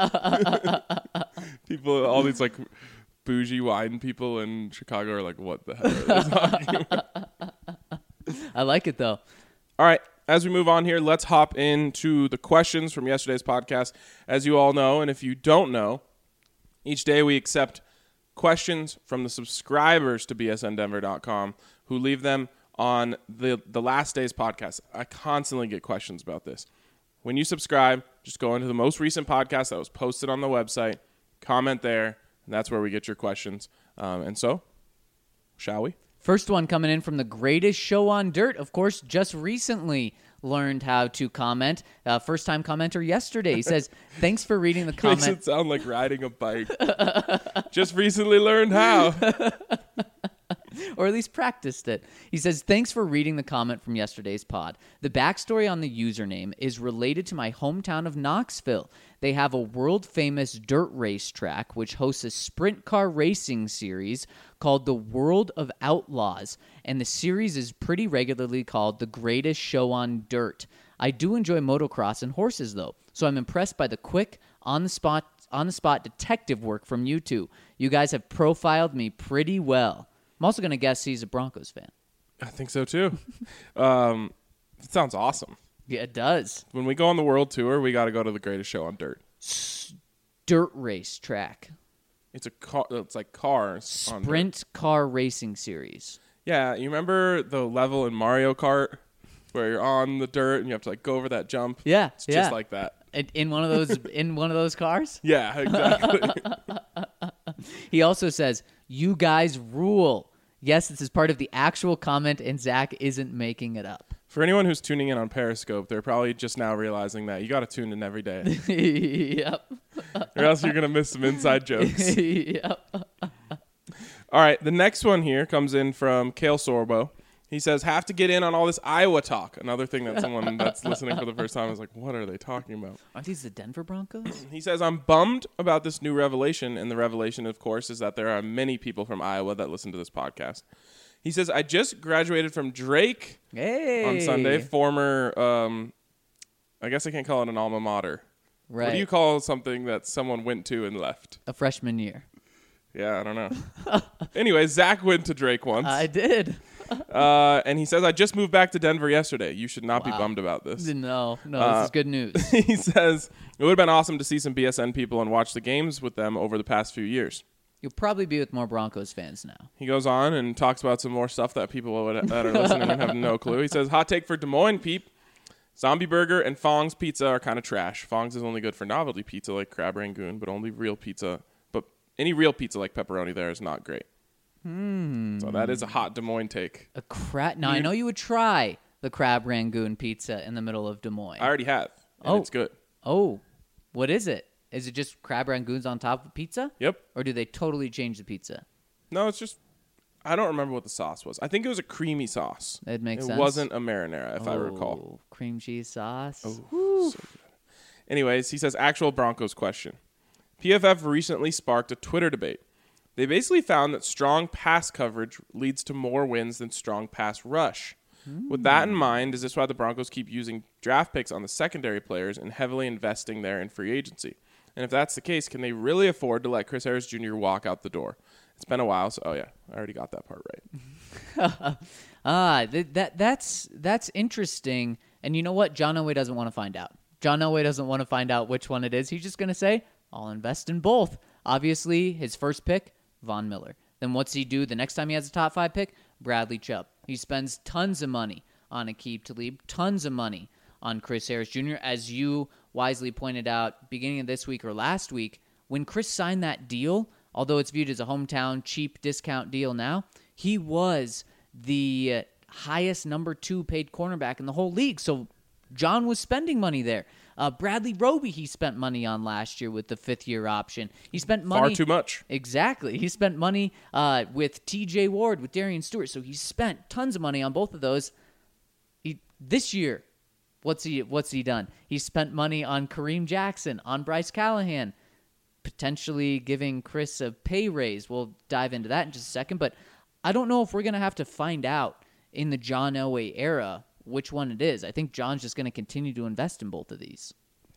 People, all these like bougie wine people in Chicago are like, what the hell are they talking about? I like it though. All right, as we move on here, let's hop into the questions from yesterday's podcast. As you all know, and if you don't know, each day we accept questions from the subscribers to B S N Denver dot com who leave them on the, the last day's podcast. I constantly get questions about this. When you subscribe, just go into the most recent podcast that was posted on the website, comment there, and that's where we get your questions. Um, and so, shall we? First one coming in from the greatest show on dirt. Of course, just recently learned how to comment. Uh, first time commenter yesterday. He says, thanks for reading the comment. Makes it sound like riding a bike. Just recently learned how. or at least practiced it. He says, thanks for reading the comment from yesterday's pod. The backstory on the username is related to my hometown of Knoxville. They have a world-famous dirt race track which hosts a sprint car racing series called the World of Outlaws, and the series is pretty regularly called the greatest show on dirt. I do enjoy motocross and horses, though, so I'm impressed by the quick, on-the-spot on-the-spot detective work from you two. You guys have profiled me pretty well. I'm also going to guess he's a Broncos fan. I think so, too. um, it sounds awesome. Yeah, it does. When we go on the world tour, we got to go to the greatest show on dirt. S- dirt race track. It's a car. It's like cars. on Sprint dirt. car racing series. Yeah, you remember the level in Mario Kart where you're on the dirt and you have to like go over that jump? Yeah, It's yeah. just like that. In, in one of those, in one of those cars. Yeah, exactly. He also says, "You guys rule." Yes, this is part of the actual comment, and Zach isn't making it up. For anyone who's tuning in on Periscope, they're probably just now realizing that you got to tune in every day, Yep. or else you're gonna miss some inside jokes. Yep. All right, the next one here comes in from Kale Sorbo. He says, have to get in on all this Iowa talk. Another thing that someone that's listening for the first time is like, what are they talking about? Aren't these the Denver Broncos? He says, I'm bummed about this new revelation. And the revelation, of course, is that there are many people from Iowa that listen to this podcast. He says, I just graduated from Drake Hey. on Sunday. Former, um, I guess I can't call it an alma mater. Right. What do you call something that someone went to and left? A freshman year. Yeah, I don't know. Anyway, Zach went to Drake once. I did. Uh, and he says, I just moved back to Denver yesterday. You should not Wow. be bummed about this. No, no, Uh, this is good news. He says, it would have been awesome to see some B S N people and watch the games with them over the past few years. You'll probably be with more Broncos fans now. He goes on and talks about some more stuff that people would, that are listening and have no clue. He says, hot take for Des Moines, peep. Zombie Burger and Fong's Pizza are kind of trash. Fong's is only good for novelty pizza like Crab Rangoon, but only real pizza. But any real pizza like pepperoni there is not great. Hmm. So that is a hot Des Moines take. A crab. Now I know you would try the Crab Rangoon pizza in the middle of Des Moines. I already have, and Oh. it's good. Oh, what is it? Is it just Crab Rangoons on top of pizza? Yep. Or do they totally change the pizza? No, it's just, I don't remember what the sauce was. I think it was a creamy sauce. That makes it sense. It wasn't a marinara, if I recall. Oh, cream cheese sauce. Oh, so good. Anyways, he says, actual Broncos question. P F F recently sparked a Twitter debate. They basically found that strong pass coverage leads to more wins than strong pass rush. Mm. With that in mind, is this why the Broncos keep using draft picks on the secondary players and heavily investing there in free agency? And if that's the case, can they really afford to let Chris Harris Junior walk out the door? It's been a while, so oh yeah, I already got that part right. ah, th- that that's that's interesting. And you know what? John Elway doesn't want to find out. John Elway doesn't want to find out which one it is. He's just going to say, I'll invest in both. Obviously, his first pick, Von Miller. Then what's he do the next time he has a top five pick? Bradley Chubb. He spends tons of money on Aqib Talib, tons of money on Chris Harris Junior As you wisely pointed out, beginning of this week or last week, when Chris signed that deal, although it's viewed as a hometown cheap discount deal now, he was the highest number two paid cornerback in the whole league. So John was spending money there. Uh, Bradley Roby, he spent money on last year with the fifth-year option. He spent money... Far too much. Exactly. He spent money uh, with T J Ward, with Darian Stewart. So he spent tons of money on both of those. He, this year, what's he what's he done? He spent money on Kareem Jackson, on Bryce Callahan, potentially giving Chris a pay raise. We'll dive into that in just a second. But I don't know if we're going to have to find out in the John Elway era which one it is. I think John's just going to continue to invest in both of these.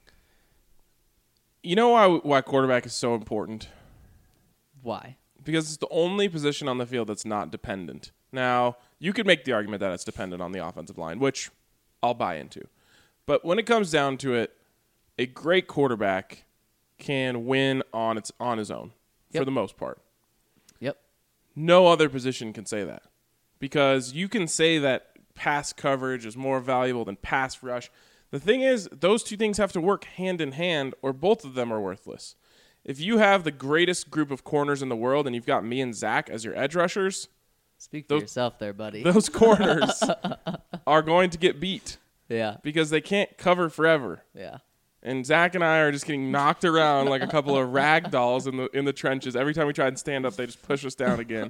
You know why why quarterback is so important? Why? Because it's the only position on the field that's not dependent. Now, you could make the argument that it's dependent on the offensive line, which I'll buy into. But when it comes down to it, a great quarterback can win on its on his own Yep. for the most part. Yep. No other position can say that. Because you can say that pass coverage is more valuable than pass rush. The thing is, those two things have to work hand in hand, or both of them are worthless. If you have the greatest group of corners in the world and you've got me and Zach as your edge rushers, Speak for Those- yourself there, buddy. those corners are going to get beat yeah. because they can't cover forever. Yeah. And Zach and I are just getting knocked around like a couple of rag dolls in the in the trenches. Every time we try and stand up, they just push us down again.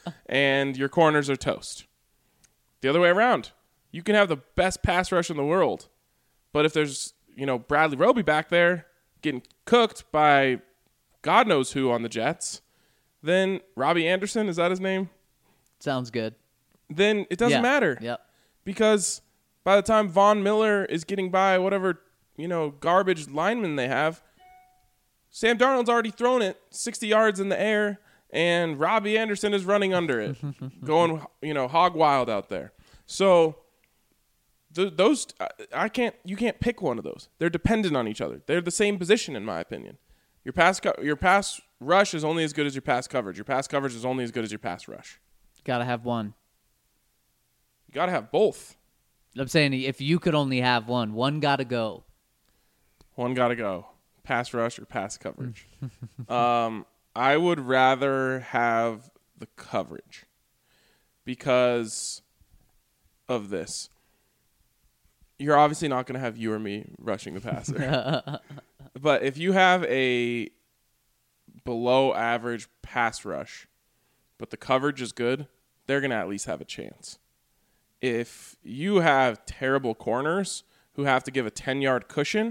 and your corners are toast. The other way around, you can have the best pass rush in the world, but if there's, you know, Bradley Roby back there getting cooked by God knows who on the Jets, then Robbie Anderson, is that his name? Sounds good. Then it doesn't Yeah. matter. Yep. Because by the time Von Miller is getting by whatever, you know, garbage lineman they have, Sam Darnold's already thrown it sixty yards in the air, and Robbie Anderson is running under it, going, you know, hog wild out there. So th- those, I, I can't, you can't pick one of those. They're dependent on each other. They're the same position, in my opinion. Your pass, co- your pass rush is only as good as your pass coverage. Your pass coverage is only as good as your pass rush. Gotta have one. You got to have both. I'm saying if you could only have one, one gotta go. One got to go. Pass rush or pass coverage. um, I would rather have the coverage because of this. You're obviously not going to have you or me rushing the passer. But if you have a below average pass rush, but the coverage is good, they're going to at least have a chance. If you have terrible corners who have to give a ten-yard cushion,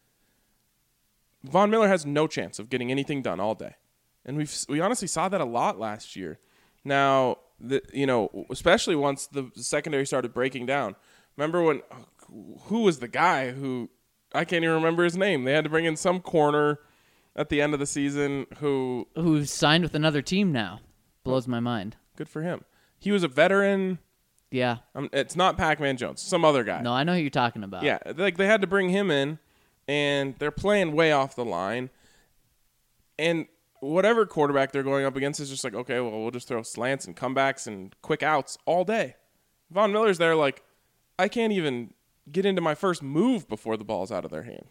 Von Miller has no chance of getting anything done all day. And we we honestly saw that a lot last year. Now, the, you know, especially once the secondary started breaking down. Remember when, who was the guy who, I can't even remember his name. They had to bring in some corner at the end of the season who. Who's signed with another team now. Blows my mind. Good for him. He was a veteran. Yeah. Um, it's not Pac-Man Jones. Some other guy. No, I know who you're talking about. Yeah, like they had to bring him in, and they're playing way off the line. And whatever quarterback they're going up against is just like, okay, well, we'll just throw slants and comebacks and quick outs all day. Von Miller's there like, I can't even get into my first move before the ball's out of their hand.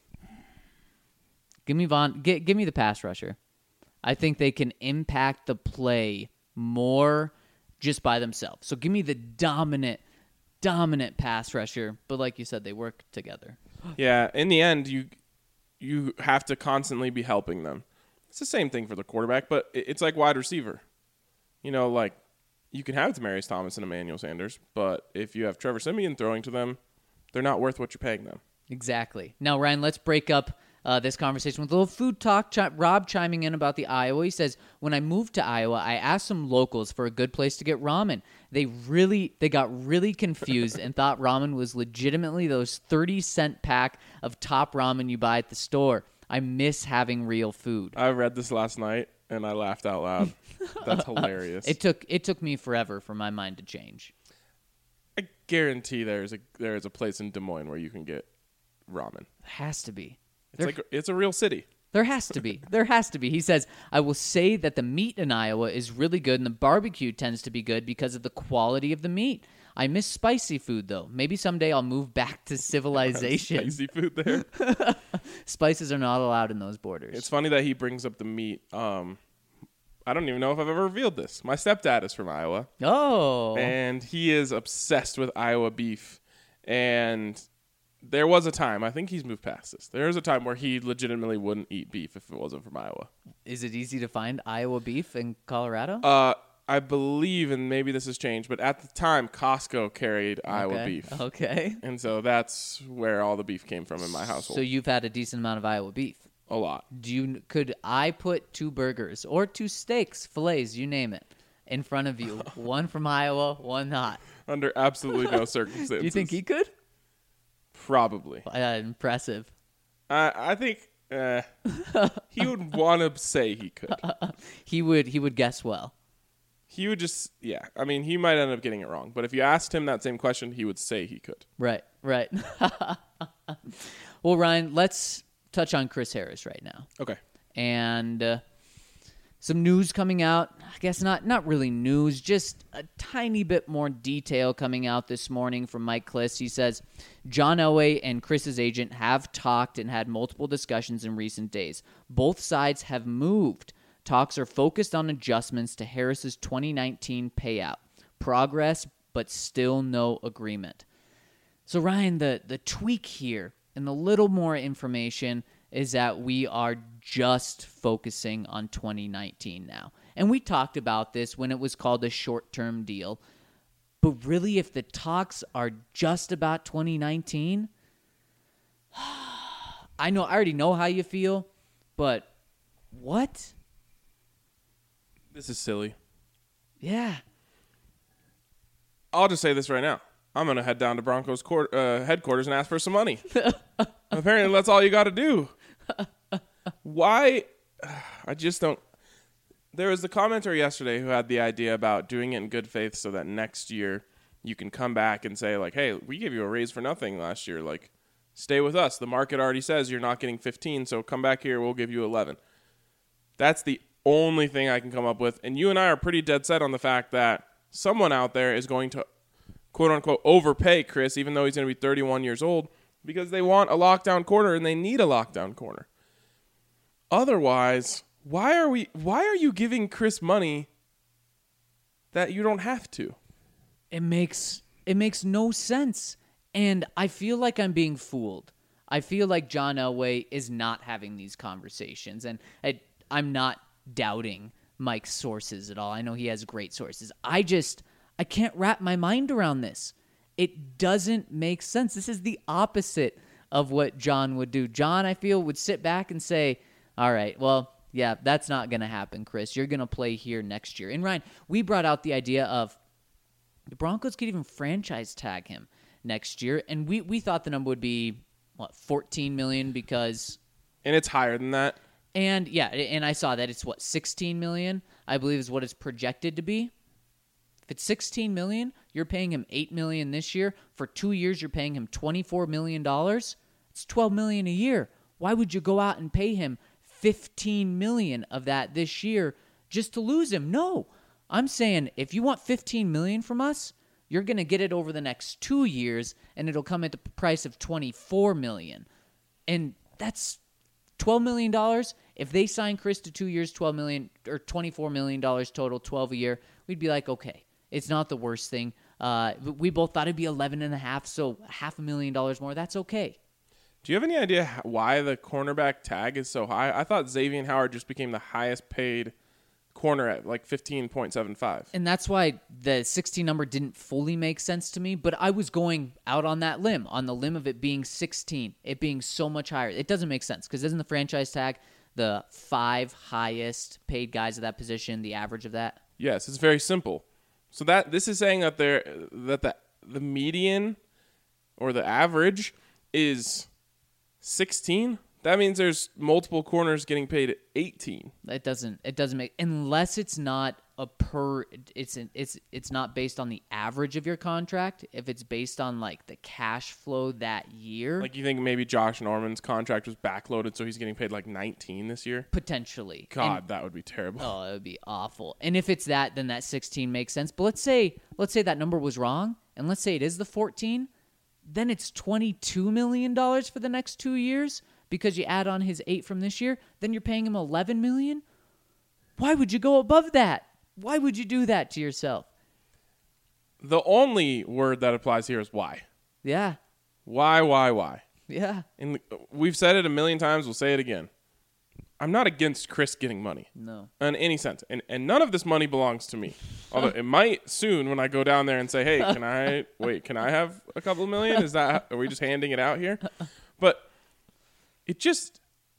Give me Von. Give, give me the pass rusher. I think they can impact the play more just by themselves. So give me the dominant, dominant pass rusher. But like you said, they work together. Yeah, in the end, you you have to constantly be helping them. It's the same thing for the quarterback, but it's like wide receiver. You know, like you can have Demaryius Thomas and Emmanuel Sanders, but if you have Trevor Siemian throwing to them, they're not worth what you're paying them. Exactly. Now, Ryan, let's break up uh, this conversation with a little food talk. Ch- Rob chiming in about the Iowa. He says, when I moved to Iowa, I asked some locals for a good place to get ramen. They really, they got really confused and thought ramen was legitimately those thirty cent pack of top ramen you buy at the store. I miss having real food. I read this last night and I laughed out loud. That's hilarious. It took it took me forever for my mind to change. I guarantee there's a there's a place in Des Moines where you can get ramen. It has to be. It's There- like it's a real city. There has to be. There has to be. He says, I will say that the meat in Iowa is really good and the barbecue tends to be good because of the quality of the meat. I miss spicy food, though. Maybe someday I'll move back to civilization. Spicy food there. Spices are not allowed in those borders. It's funny that he brings up the meat. Um, I don't even know if I've ever revealed this. My stepdad is from Iowa. oh. And he is obsessed with Iowa beef. And there was a time, I think he's moved past this. There was a time where he legitimately wouldn't eat beef if it wasn't from Iowa. Is it easy to find Iowa beef in Colorado? Uh, I believe, and maybe this has changed, but at the time, Costco carried Iowa okay. beef. Okay. And so that's where all the beef came from in my household. So you've had a decent amount of Iowa beef. A lot. Do you could I put two burgers or two steaks, fillets, you name it, in front of you? One from Iowa, one not. Under absolutely no circumstances. Do you think he could? Probably. Uh, impressive. I I think uh, he would want to say he could. He would he would guess well. He would just, yeah. I mean, he might end up getting it wrong. But if you asked him that same question, he would say he could. Right, right. Well, Ryan, let's touch on Chris Harris right now. Okay. And uh, some news coming out. I guess not not really news, just a tiny bit more detail coming out this morning from Mike Klis. He says, John Elway and Chris's agent have talked and had multiple discussions in recent days. Both sides have moved. Talks are focused on adjustments to Harris's twenty nineteen payout. Progress, but still no agreement. So, Ryan, the, the tweak here and the little more information is that we are just focusing on twenty nineteen now. And we talked about this when it was called a short-term deal. But really, if the talks are just about twenty nineteen, I know I already know how you feel, but what? This is silly. Yeah. I'll just say this right now. I'm going to head down to Broncos court, uh, headquarters and ask for some money. Apparently, that's all you got to do. Why? I just don't. There was the commenter yesterday who had the idea about doing it in good faith so that next year you can come back and say, like, hey, we gave you a raise for nothing last year. Like, stay with us. The market already says you're not getting fifteen, so come back here. We'll give you eleven. That's the only thing I can come up with. And you and I are pretty dead set on the fact that someone out there is going to, quote-unquote, overpay Chris, even though he's going to be thirty-one years old, because they want a lockdown corner and they need a lockdown corner. Otherwise, why are we? Why are you giving Chris money that you don't have to? It makes it makes no sense. And I feel like I'm being fooled. I feel like John Elway is not having these conversations. And I, I'm not doubting Mike's sources at all. I know he has great sources. I just, I can't wrap my mind around this. It doesn't make sense. This is the opposite of what John would do. John, I feel, would sit back and say, all right, well, yeah, that's not going to happen, Chris. You're going to play here next year. And Ryan, we brought out the idea of the Broncos could even franchise tag him next year. And we, we thought the number would be, what, fourteen million dollars because... And it's higher than that. And, yeah, and I saw that it's, what, sixteen million dollars, I believe is what it's projected to be. If it's sixteen million dollars, you're paying him eight million dollars this year. For two years, you're paying him twenty-four million dollars. It's twelve million dollars a year. Why would you go out and pay him fifteen million dollars of that this year just to lose him? No. I'm saying if you want fifteen million dollars from us, you're going to get it over the next two years, and it'll come at the price of twenty-four million dollars. And that's twelve million dollars. If they sign Chris to two years, twelve million dollars or twenty-four million dollars total, twelve a year, we'd be like, okay, it's not the worst thing. Uh, we both thought it'd be eleven and a half, so half a million dollars more. That's okay. Do you have any idea why the cornerback tag is so high? I thought Xavier Howard just became the highest paid corner at like fifteen point seven five. And that's why the sixteen number didn't fully make sense to me, but I was going out on that limb, on the limb of it being sixteen, it being so much higher. It doesn't make sense because isn't the franchise tag the five highest paid guys at that position, the average of that? Yes, it's very simple. So that this is saying that there that the the median or the average is sixteen. That means there's multiple corners getting paid at eighteen. It doesn't. It doesn't make unless it's not a per. It's an, it's it's not based on the average of your contract. If it's based on like the cash flow that year, Like you think maybe Josh Norman's contract was backloaded, so he's getting paid like nineteen this year. potentially. God, And- that would be terrible. oh, it would be awful. And if it's that, then that sixteen makes sense. But let's say let's say that number was wrong, and let's say it is the fourteen. Then it's twenty-two million dollars for the next two years. Because you add on his eight from this year, then you're paying him eleven million dollars? Why would you go above that? Why would you do that to yourself? The only word that applies here is why. Yeah. Why, why, why? Yeah. And we've said it a million times. We'll say it again. I'm not against Chris getting money. No. In any sense. And and none of this money belongs to me. Although it might soon when I go down there and say, hey, can I, wait, can I have a couple million? Is that, are we just handing it out here? But it just,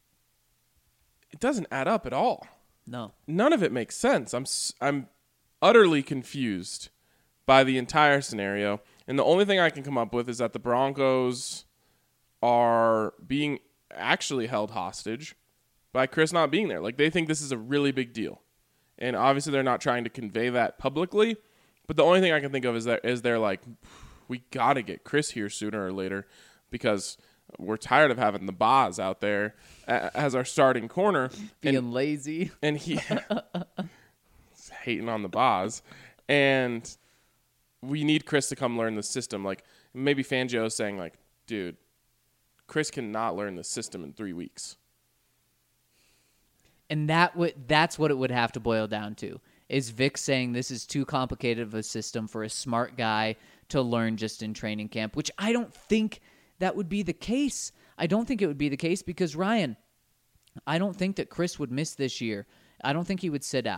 it doesn't add up at all. No. None of it makes sense. I'm s- I'm utterly confused by the entire scenario. And the only thing I can come up with is that the Broncos are being actually held hostage by Chris not being there. Like, they think this is a really big deal. And obviously they're not trying to convey that publicly. But the only thing I can think of is that is they're like, we got to get Chris here sooner or later because we're tired of having the Boz out there as our starting corner. Being and, lazy. And he hating on the Boz. And we need Chris to come learn the system. Like, maybe Fangio is saying, like, dude, Chris cannot learn the system in three weeks. And that would that's what it would have to boil down to. Is Vic saying this is too complicated of a system for a smart guy to learn just in training camp, which I don't think that would be the case. I don't think it would be the case because, Ryan, I don't think that Chris would miss this year. I don't think he would sit out.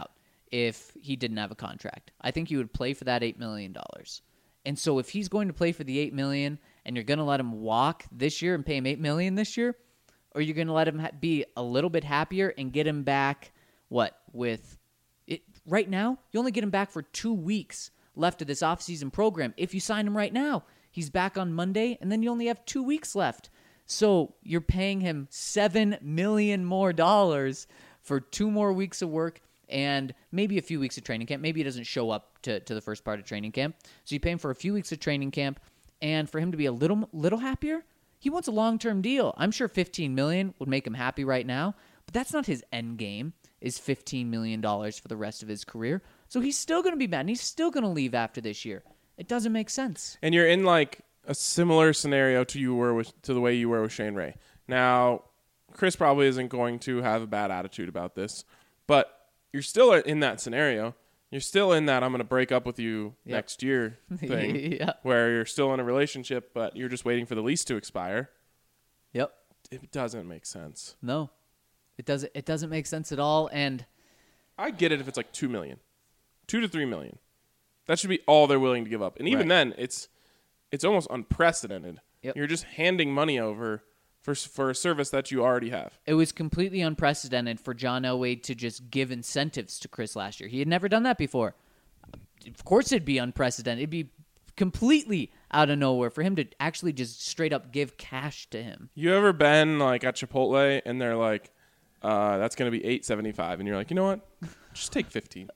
if he didn't have a contract. I think he would play for that eight million dollars. And so if he's going to play for the eight million dollars and you're going to let him walk this year and pay him eight million dollars this year, or you're going to let him ha- be a little bit happier and get him back, what, with it right now? You only get him back for two weeks left of this offseason program. If you sign him right now, he's back on Monday, and then you only have two weeks left. So you're paying him seven million dollars more dollars for two more weeks of work and maybe a few weeks of training camp. Maybe he doesn't show up to, to the first part of training camp. So you pay him for a few weeks of training camp, and for him to be a little little happier, he wants a long-term deal. I'm sure fifteen million dollars would make him happy right now, but that's not his end game, is fifteen million dollars for the rest of his career. So he's still going to be mad, and he's still going to leave after this year. It doesn't make sense. And you're in like a similar scenario to you were with to the way you were with Shane Ray. Now, Chris probably isn't going to have a bad attitude about this, but you're still in that scenario. You're still in that I'm going to break up with you Yep. next year thing, Yeah. where you're still in a relationship, but you're just waiting for the lease to expire. Yep. It doesn't make sense. No. It doesn't it doesn't make sense at all, and I get it if it's like two million, two to three million. That should be all they're willing to give up, and even Right. then, it's it's almost unprecedented. Yep. You're just handing money over for for a service that you already have. it was completely unprecedented for John Elway to just give incentives to Chris last year. He had never done that before. Of course it'd be unprecedented. It'd be completely out of nowhere for him to actually just straight up give cash to him. You ever been like at Chipotle and they're like, uh, "That's gonna be eight seventy five," and you're like, "You know what? Just take fifteen.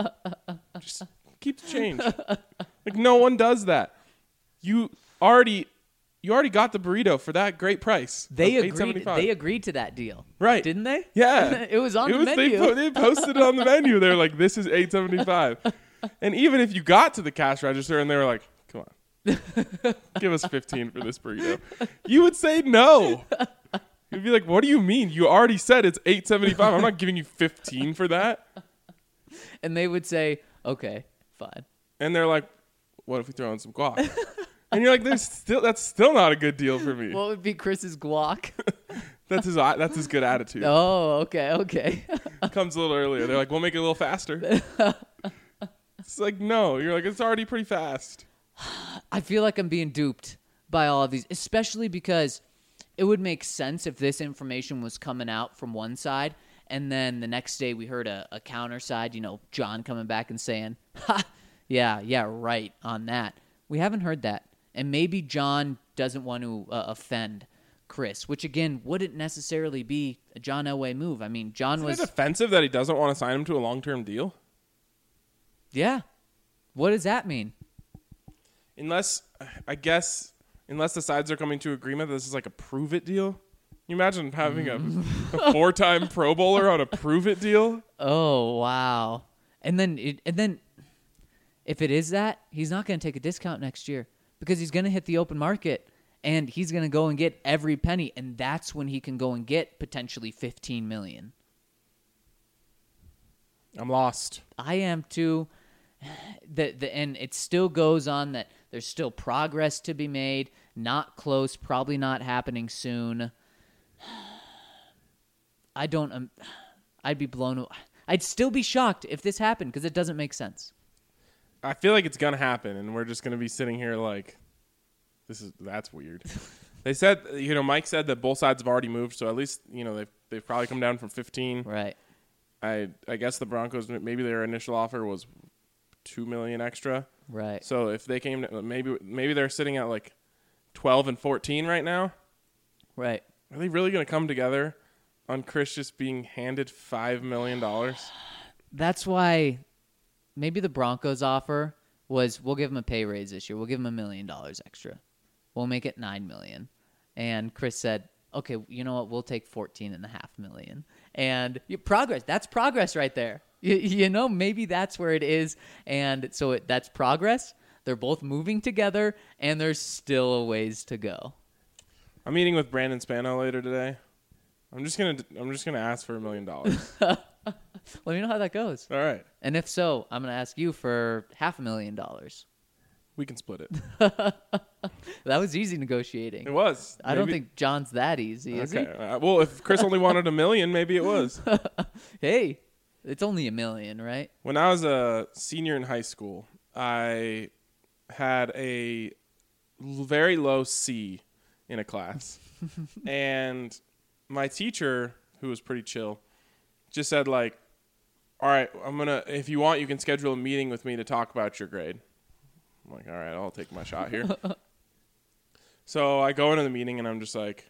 Just keep the change." Like no one does that. You already. You already got the burrito for that great price. They of agreed eight seventy-five. they agreed to that deal. Right. Didn't they? Yeah. It was on It the was, menu. They, po- they posted it on the menu. They were like, this is eight seventy-five. And even if you got to the cash register and they were like, come on, give us fifteen for this burrito, you would say no. You'd be like, what do you mean? You already said it's eight seventy-five. I'm not giving you fifteen for that. And they would say, okay, fine. And they're like, what if we throw in some guac? And you're like, there's still that's still not a good deal for me. What would be Chris's guac? That's his that's his good attitude. Oh, okay, okay. Comes a little earlier. They're like, we'll make it a little faster. It's like, no. You're like, it's already pretty fast. I feel like I'm being duped by all of these, especially because it would make sense if this information was coming out from one side, and then the next day we heard a, a counter side, you know, John coming back and saying, ha, yeah, yeah, right on that. We haven't heard that. And maybe John doesn't want to uh, offend Chris, which, again, wouldn't necessarily be a John Elway move. I mean, John Isn't was... it offensive that he doesn't want to sign him to a long-term deal? Yeah. What does that mean? Unless, I guess, unless the sides are coming to agreement that this is like a prove-it deal. Can you imagine having a, a four-time Pro Bowler on a prove-it deal? Oh, wow. And then, it, and then, if it is that, he's not going to take a discount next year because he's going to hit the open market and he's going to go and get every penny, and that's when he can go and get potentially fifteen million I'm lost. I am too. The the and it still goes on that there's still progress to be made. Not close, probably not happening soon. I don't. Um, I'd be blown. Away. I'd still be shocked if this happened because it doesn't make sense. I feel like it's going to happen, and we're just going to be sitting here like, this is that's weird. They said, you know, Mike said that both sides have already moved, so at least, you know, they've, they've probably come down from fifteen. Right. I I guess the Broncos, maybe their initial offer was two million dollars extra. Right. So if they came to, maybe maybe they're sitting at like twelve and fourteen right now. Right. Are they really going to come together on Chris just being handed five million dollars? That's why maybe the Broncos offer was we'll give him a pay raise this year. We'll give him a million dollars extra. We'll make it nine million. And Chris said, okay, you know what? We'll take fourteen and a half million. And you, progress. That's progress right there. You, you know, maybe that's where it is. And so it, that's progress. They're both moving together, and there's still a ways to go. I'm meeting with Brandon Spano later today. I'm just gonna I'm just gonna ask for a million dollars. Let me know how that goes. All right, And if so, I'm going to ask you for half a million dollars. we can split it. That was easy negotiating. It was. I don't Maybe- think John's that easy, is Okay. Uh, well, if Chris only wanted a million, maybe it was. he? Hey, It's only a million, right? When I was a senior in high school, I had a l- very low C in a class. And my teacher, who was pretty chill, just said, like, all right, I'm going to, if you want, you can schedule a meeting with me to talk about your grade. I'm like, all right, I'll take my shot here. So I go into the meeting and I'm just like,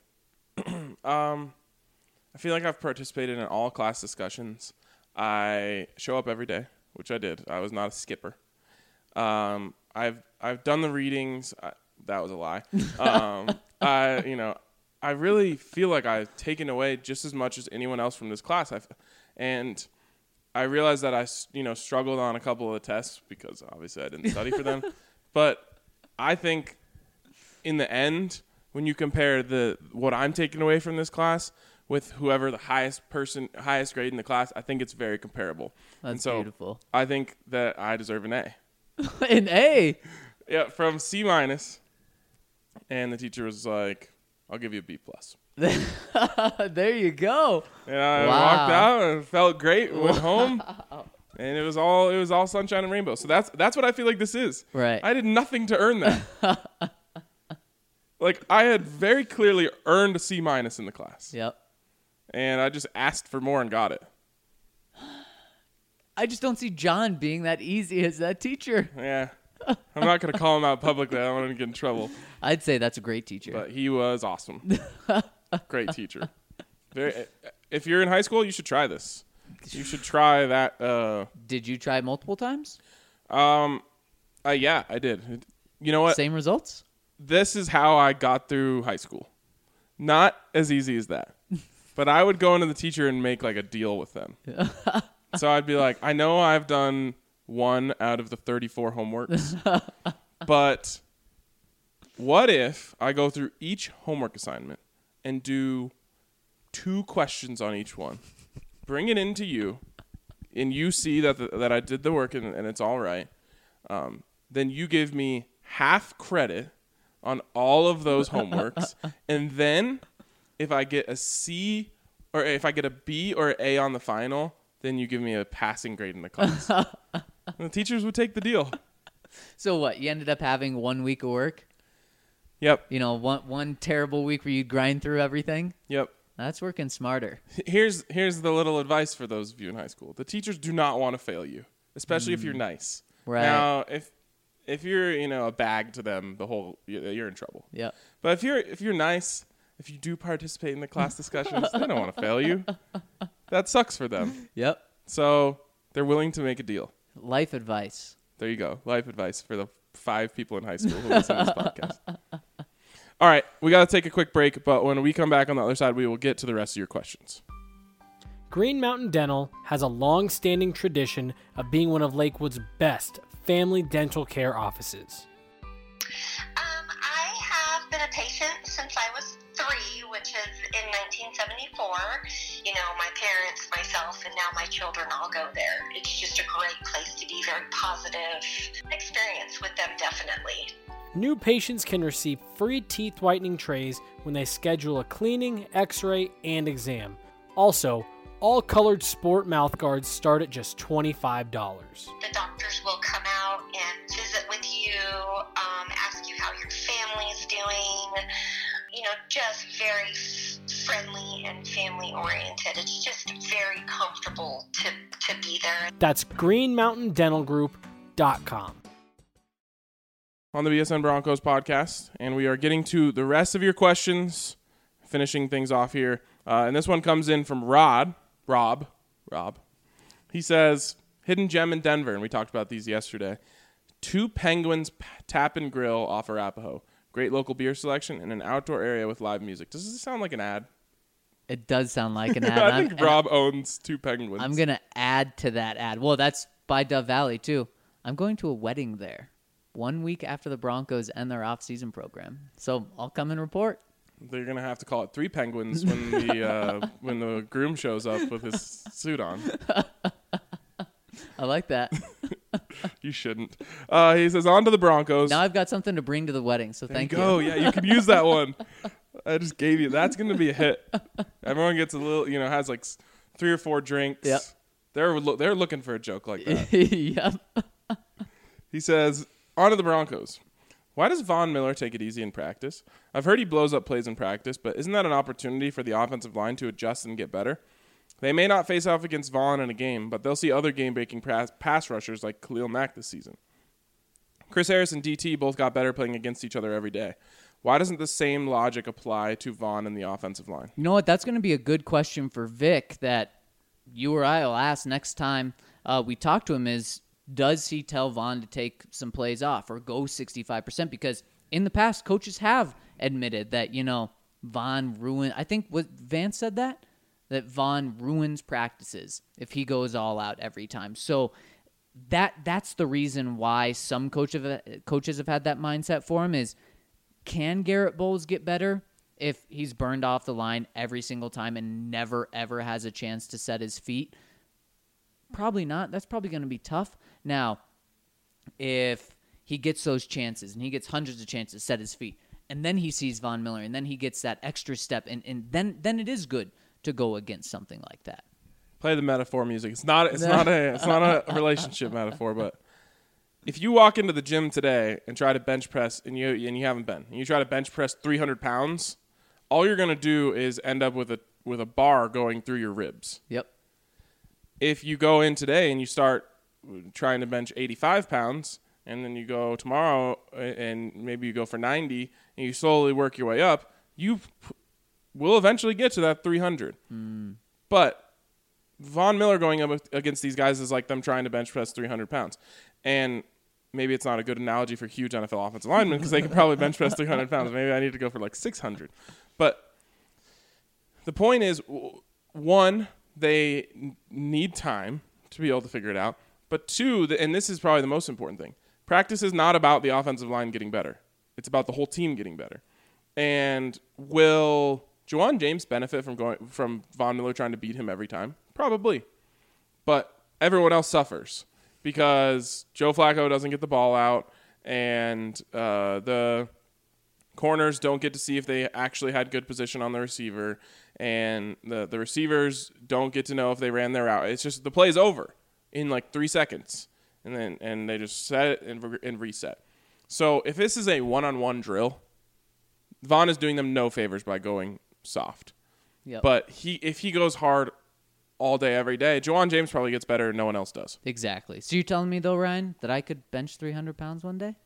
um, I feel like I've participated in all class discussions. I show up every day, which I did. I was not a skipper. Um, I've I've done the readings. I, that was a lie. Um, I you know I really feel like I've taken away just as much as anyone else from this class. I've, and I realized that I you know struggled on a couple of the tests because obviously I didn't study for them. But I think in the end, when you compare the what I'm taking away from this class with whoever the highest person, highest grade in the class, I think it's very comparable. That's and so beautiful. I think that I deserve an A. An A? Yeah, from C minus. And the teacher was like, I'll give you a B plus. There you go. And I Wow. walked out and felt great, went home. And it was all it was all sunshine and rainbow. So that's that's what I feel like this is. Right. I did nothing to earn that. Like, I had very clearly earned a C minus in the class. Yep. And I just asked for more and got it. I just don't see John being that easy as that teacher. Yeah. I'm not going to call him out publicly. I don't want him to get in trouble. I'd say that's a great teacher. But he was awesome. Great teacher. Very. If you're in high school, you should try this. You should try that. Uh, Did you try multiple times? um, uh, yeah, I did. You know what? Same results? This is how I got through high school. Not as easy as that. But I would go into the teacher and make like a deal with them. So I'd be like, I know I've done one out of the thirty-four homeworks, but what if I go through each homework assignment and do two questions on each one, bring it into you, and you see that the, that I did the work and, and it's all right, um, then you give me half credit on all of those homeworks, and then if I get a C or if I get a B or an A on the final, then you give me a passing grade in the class. And the teachers would take the deal. So what? You ended up having one week of work? Yep. You know, one one terrible week where you grind through everything? Yep. That's working smarter. Here's here's the little advice for those of you in high school. The teachers do not want to fail you, especially mm. if you're nice. Right. Now, if if you're, you know, a bag to them, the whole you're in trouble. Yeah. But if you're if you're nice, if you do participate in the class discussions, they don't want to fail you. That sucks for them. Yep. So they're willing to make a deal. Life advice. There you go. Life advice for the five people in high school who listen to this podcast. All right. We got to take a quick break, but when we come back on the other side, we will get to the rest of your questions. Green Mountain Dental has a long-standing tradition of being one of Lakewood's best family dental care offices. Um, I have been a patient since I was three, which is in nineteen seventy-four. You know, my parents, myself, and now my children all go there. It's just a great place to be, very positive experience with them, definitely. New patients can receive free teeth whitening trays when they schedule a cleaning, x-ray, and exam. Also, all colored sport mouth guards start at just twenty-five dollars. The doctors will come out and visit with you, um, ask you how your family's doing, you know, just very friendly and family oriented. It's just very comfortable to, to be there. That's green mountain dental group dot com. On the B S N Broncos podcast, and we are getting to the rest of your questions, finishing things off here. Uh, and this one comes in from Rod, Rob, Rob. He says, hidden gem in Denver, and we talked about these yesterday. Two Penguins p- Tap and Grill off Arapahoe. Great local beer selection and an outdoor area with live music. Does this sound like an ad? It does sound like an ad. I think I'm, Rob owns Two Penguins. I'm going to add to that ad. Well, that's by Dove Valley, too. I'm going to a wedding there one week after the Broncos end their off-season program. So I'll come and report. They're going to have to call it Three Penguins when the uh, when the groom shows up with his suit on. I like that. You shouldn't. Uh, he says, on to the Broncos. Now I've got something to bring to the wedding, so There thank you you. go. Yeah, you can use that one. I just gave you. That's going to be a hit. Everyone gets a little, you know, has like s- three or four drinks. Yep. They're lo- they're looking for a joke like that. Yep. He says, on to the Broncos. Why does Von Miller take it easy in practice? I've heard he blows up plays in practice, but isn't that an opportunity for the offensive line to adjust and get better? They may not face off against Von in a game, but they'll see other game-breaking pass, pass rushers like Khalil Mack this season. Chris Harris and D T both got better playing against each other every day. Why doesn't the same logic apply to Von and the offensive line? You know what? That's going to be a good question for Vic that you or I will ask next time uh, we talk to him is, does he tell Von to take some plays off or go sixty-five percent? Because in the past, coaches have admitted that, you know, Von ruined. I think what Vance said that, that Von ruins practices if he goes all out every time. So that that's the reason why some coach have, coaches have had that mindset for him is, can Garrett Bowles get better if he's burned off the line every single time and never, ever has a chance to set his feet? Probably not. That's probably going to be tough. Now, if he gets those chances and he gets hundreds of chances to set his feet, and then he sees Von Miller, and then he gets that extra step, and, and then then it is good to go against something like that. Play the metaphor music. It's not it's not a it's not a relationship metaphor, but if you walk into the gym today and try to bench press and you and you haven't been, and you try to bench press three hundred pounds, all you're going to do is end up with a with a bar going through your ribs. Yep. If you go in today and you start trying to bench eighty-five pounds, and then you go tomorrow and maybe you go for ninety, and you slowly work your way up, you p- will eventually get to that three hundred. Mm. But Von Miller going up against these guys is like them trying to bench press three hundred pounds. And maybe it's not a good analogy for huge N F L offensive linemen because they could probably bench press three hundred pounds. Maybe I need to go for like six hundred. But the point is, one, they need time to be able to figure it out. But two, and this is probably the most important thing, practice is not about the offensive line getting better. It's about the whole team getting better. And will Juwan James benefit from going from Von Miller trying to beat him every time? Probably. But everyone else suffers because Joe Flacco doesn't get the ball out, and uh, the corners don't get to see if they actually had good position on the receiver, and the, the receivers don't get to know if they ran their route. It's just the play's over in like three seconds, and then and they just set it and, re- and reset. So if this is a one-on-one drill, Von is doing them no favors by going soft. Yep. But he if he goes hard all day, every day, Juwan James probably gets better and no one else does. Exactly. So you're telling me, though, Ryan, that I could bench three hundred pounds one day?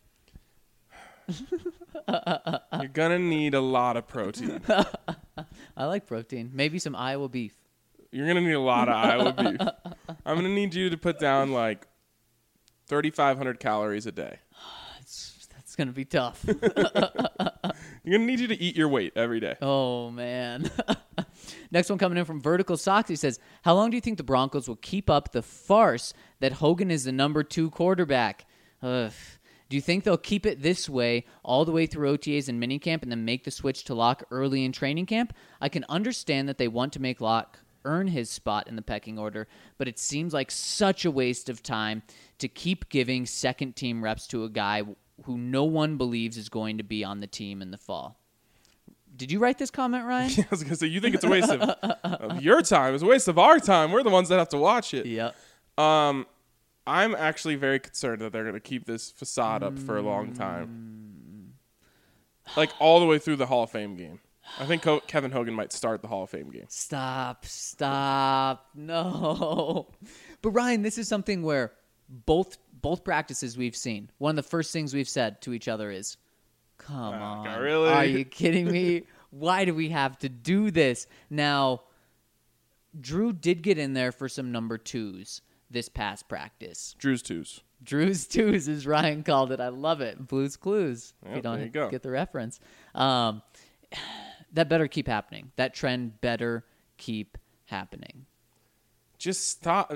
You're going to need a lot of protein. I like protein. Maybe some Iowa beef. You're going to need a lot of Iowa beef. I'm going to need you to put down like thirty-five hundred calories a day. That's, that's going to be tough. You're going to need you to eat your weight every day. Oh, man. Next one coming in from Vertical Sox. He says, how long do you think the Broncos will keep up the farce that Hogan is the number two quarterback? Ugh. Do you think they'll keep it this way all the way through O T As and minicamp and then make the switch to Locke early in training camp? I can understand that they want to make Locke earn his spot in the pecking order, but it seems like such a waste of time to keep giving second-team reps to a guy who no one believes is going to be on the team in the fall. Did you write this comment, Ryan? I was going to say, you think it's a waste of, of your time. It's a waste of our time. We're the ones that have to watch it. Yeah. Um, I'm actually very concerned that they're going to keep this facade up for a long time. Like all the way through the Hall of Fame game. I think Co- Kevin Hogan might start the Hall of Fame game. Stop, stop, no. But Ryan, this is something where both both practices we've seen, one of the first things we've said to each other is, come Oh, on, God, really? Are you kidding me? Why do we have to do this? Now, Drew did get in there for some number twos this past practice. Drew's twos. Drew's twos, as Ryan called it. I love it. Blue's Clues. Yep, if you don't there you go. get the reference. Um, that better keep happening. That trend better keep happening. Just stop.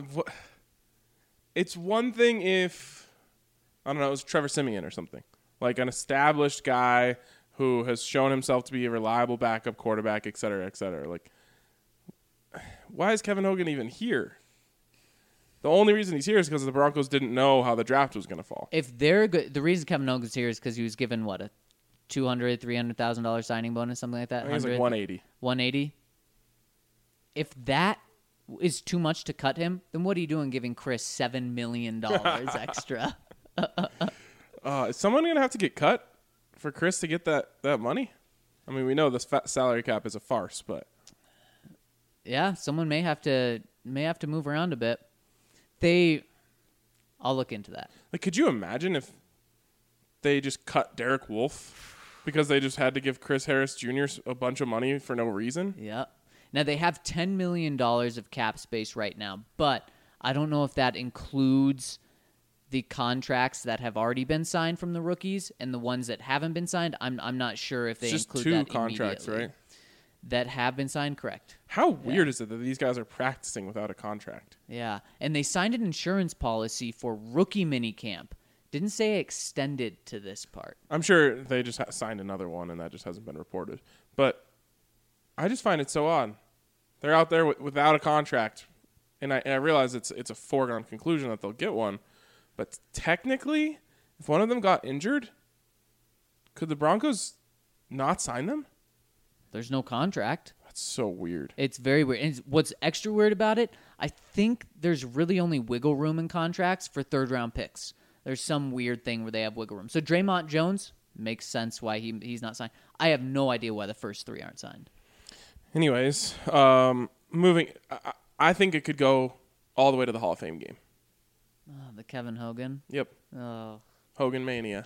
It's one thing if, I don't know, it was Trevor Siemian or something. Like an established guy who has shown himself to be a reliable backup quarterback, et cetera, et cetera. Like, why is Kevin Hogan even here? The only reason he's here is because the Broncos didn't know how the draft was going to fall. If they're good, the reason Kevin Hogan's here is because he was given, what, a two hundred thousand dollars, three hundred thousand dollars signing bonus, something like that? I think it was like one eighty. one eighty. If that is too much to cut him, then what are you doing giving Chris seven million dollars extra? Uh, is someone going to have to get cut for Chris to get that, that money? I mean, we know this fat salary cap is a farce, but Yeah, someone may have to may have to move around a bit. They, I'll look into that. like, could you imagine if they just cut Derek Wolfe because they just had to give Chris Harris Junior a bunch of money for no reason? Yeah. Now they have ten million dollars of cap space right now, but I don't know if that includes the contracts that have already been signed from the rookies and the ones that haven't been signed. I'm I'm not sure if they It's just include two that contracts, immediately. right? That have been signed, correct. How weird is it that these guys are practicing without a contract? Yeah, and they signed an insurance policy for rookie minicamp. Didn't say extended to this part. I'm sure they just ha- signed another one, and that just hasn't been reported. But I just find it so odd. They're out there w- without a contract, and I, and I realize it's it's a foregone conclusion that they'll get one. But technically, if one of them got injured, could the Broncos not sign them? There's no contract. That's so weird. It's very weird. And what's extra weird about it, I think there's really only wiggle room in contracts for third-round picks. There's some weird thing where they have wiggle room. So Draymond Jones makes sense why he he's not signed. I have no idea why the first three aren't signed. Anyways, um, moving, I, I think it could go all the way to the Hall of Fame game. Oh, the Kevin Hogan. Yep, Oh. Hogan Mania.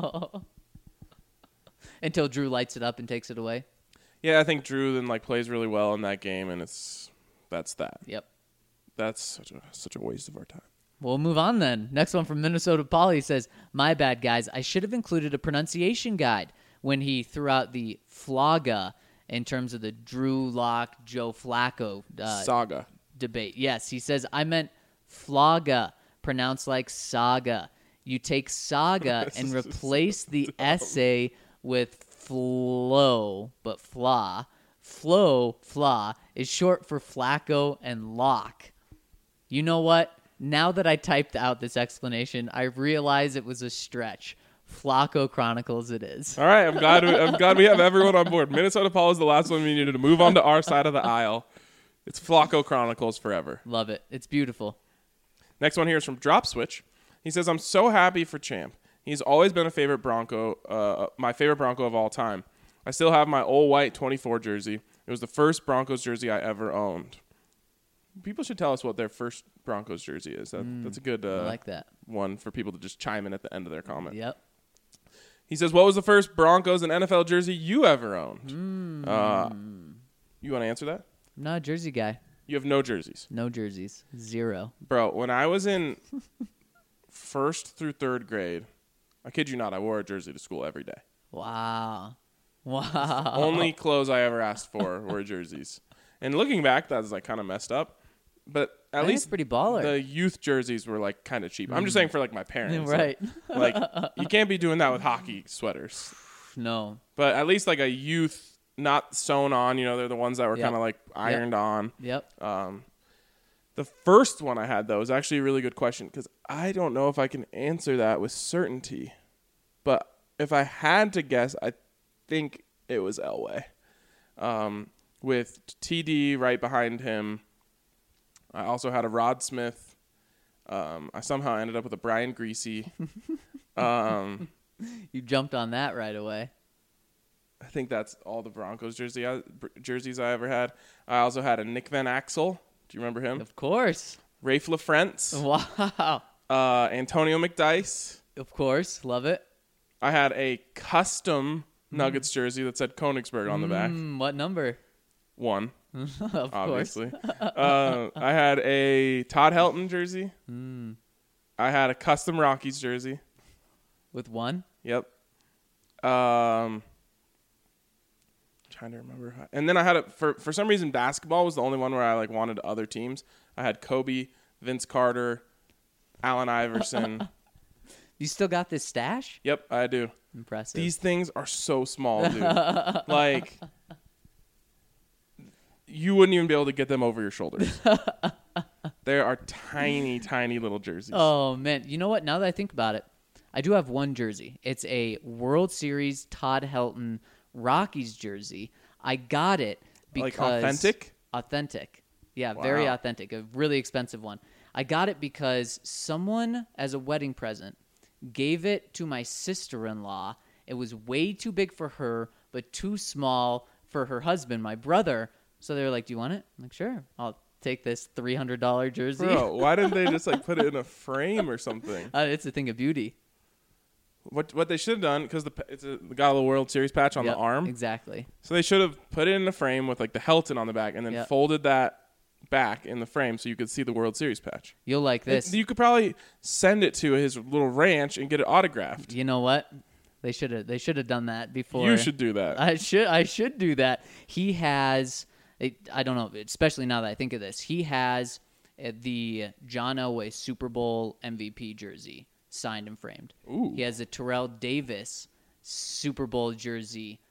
Until Drew lights it up and takes it away. Yeah, I think Drew then like plays really well in that game, and it's that's that. Yep. That's such a such a waste of our time. We'll move on then. Next one from Minnesota Polly says, "My bad, guys. I should have included a pronunciation guide when he threw out the flogga in terms of the Drew Lock, Joe Flacco uh, Saga. debate." Yes, he says, "I meant flogga, pronounced like saga. You take saga and replace the essay with flow, but flaw. Flow, flaw, is short for Flacco and Lock. You know what? Now that I typed out this explanation, I realize it was a stretch. Flacco Chronicles it is." All right, I'm glad we, I'm glad we have everyone on board. Minnesota Paul is the last one we needed to move on to our side of the aisle. It's Flacco Chronicles forever. Love it. It's beautiful. Next one here is from Drop Switch. He says, "I'm so happy for Champ. He's always been a favorite Bronco, uh, my favorite Bronco of all time. I still have my old white twenty-four jersey. It was the first Broncos jersey I ever owned." People should tell us what their first Broncos jersey is. That, Mm, that's a good I uh, like that. one for people to just chime in at the end of their comment. Yep. He says, "What was the first Broncos and N F L jersey you ever owned?" Mm. Uh, you want to answer that? I'm not a jersey guy. You have no jerseys. No jerseys. Zero. Bro, when I was in first through third grade, I kid you not, I wore a jersey to school every day. Wow. Wow. Only clothes I ever asked for were jerseys. And looking back, that's like kind of messed up. But at I think least it's pretty baller. the youth jerseys were like kind of cheap. I'm just saying for like my parents. Right. Like, like, you can't be doing that with hockey sweaters. No. But at least like a youth, not sewn on, you know, they're the ones that were Yep. kind of like ironed on. Yep. Um, the first one I had, though, is actually a really good question because I don't know if I can answer that with certainty. But if I had to guess, I think it was Elway. Um, with T D right behind him. I also had a Rod Smith. Um, I somehow ended up with a Brian Greasy. um, You jumped on that right away. I think that's all the Broncos jersey I, jerseys I ever had. I also had a Nick Van Axel. Do you remember him? Of course. Rafe LaFrentz. Wow. Uh, Antonio McDice. Of course. Love it. I had a custom Nuggets jersey that said Königsberg on the back. Mm, what number? One, Of obviously. uh, I had a Todd Helton jersey. Mm. I had a custom Rockies jersey. course. With one? Yep. Um, trying to remember. How, and then I had a for for some reason basketball was the only one where I like wanted other teams. I had Kobe, Vince Carter, Allen Iverson. You still got this stash? Yep, I do. Impressive. These things are so small, dude. Like, you wouldn't even be able to get them over your shoulders. There are tiny, tiny little jerseys. Oh, man. You know what? Now that I think about it, I do have one jersey. It's a World Series Todd Helton Rockies jersey. I got it because... Like authentic? Authentic. Yeah, very Wow. authentic. A really expensive one. I got it because someone, as a wedding present, gave it to my sister-in-law. It was way too big for her, but too small for her husband, my brother. So they were like, "Do you want it?" I'm like, "Sure. I'll take this three hundred dollars jersey." Bro, why didn't they just like put it in a frame or something? uh, it's a thing of beauty. What what they should have done, because the it's a, got a little World Series patch on Yep, the arm, Exactly. so they should have put it in a frame with like the Helton on the back, and then Yep. folded that back in the frame so you could see the World Series patch. You'll like this. And you could probably send it to his little ranch and get it autographed. You know what? They should have. They should have done that before. You should do that. I should. I should do that. He has. I don't know. Especially now that I think of this, he has uh, the John Elway Super Bowl M V P jersey signed and framed. Ooh. He has a Terrell Davis Super Bowl jersey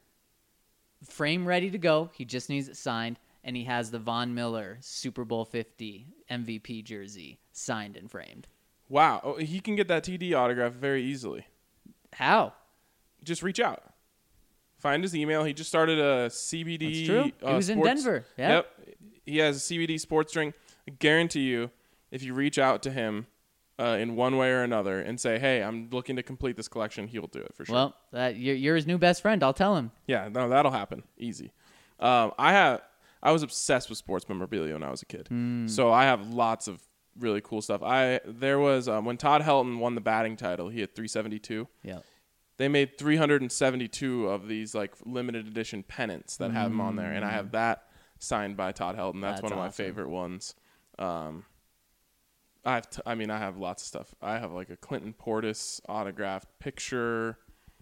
frame ready to go. He just needs it signed. And he has the Von Miller Super Bowl fifty M V P jersey signed and framed. Wow, oh, he can get that T D autograph very easily. How? Just reach out. Find his email. He just started a C B D. That's true. He uh, was in sports- Denver. Yeah. Yep. He has a C B D sports drink. I guarantee you, if you reach out to him uh, in one way or another and say, "Hey, I'm looking to complete this collection," he'll do it for sure. Well, that you're, you're his new best friend. I'll tell him. Yeah, no, that'll happen. Easy. Um, I have. I was obsessed with sports memorabilia when I was a kid. So I have lots of really cool stuff. I there was um, when Todd Helton won the batting title, he had three seventy-two. Yeah. They made three hundred seventy-two of these like limited edition pennants that have him on there, and I have that signed by Todd Helton. That's, That's one of my awesome. favorite ones. Um, I have t- I mean, I have lots of stuff. I have like a Clinton Portis autographed picture.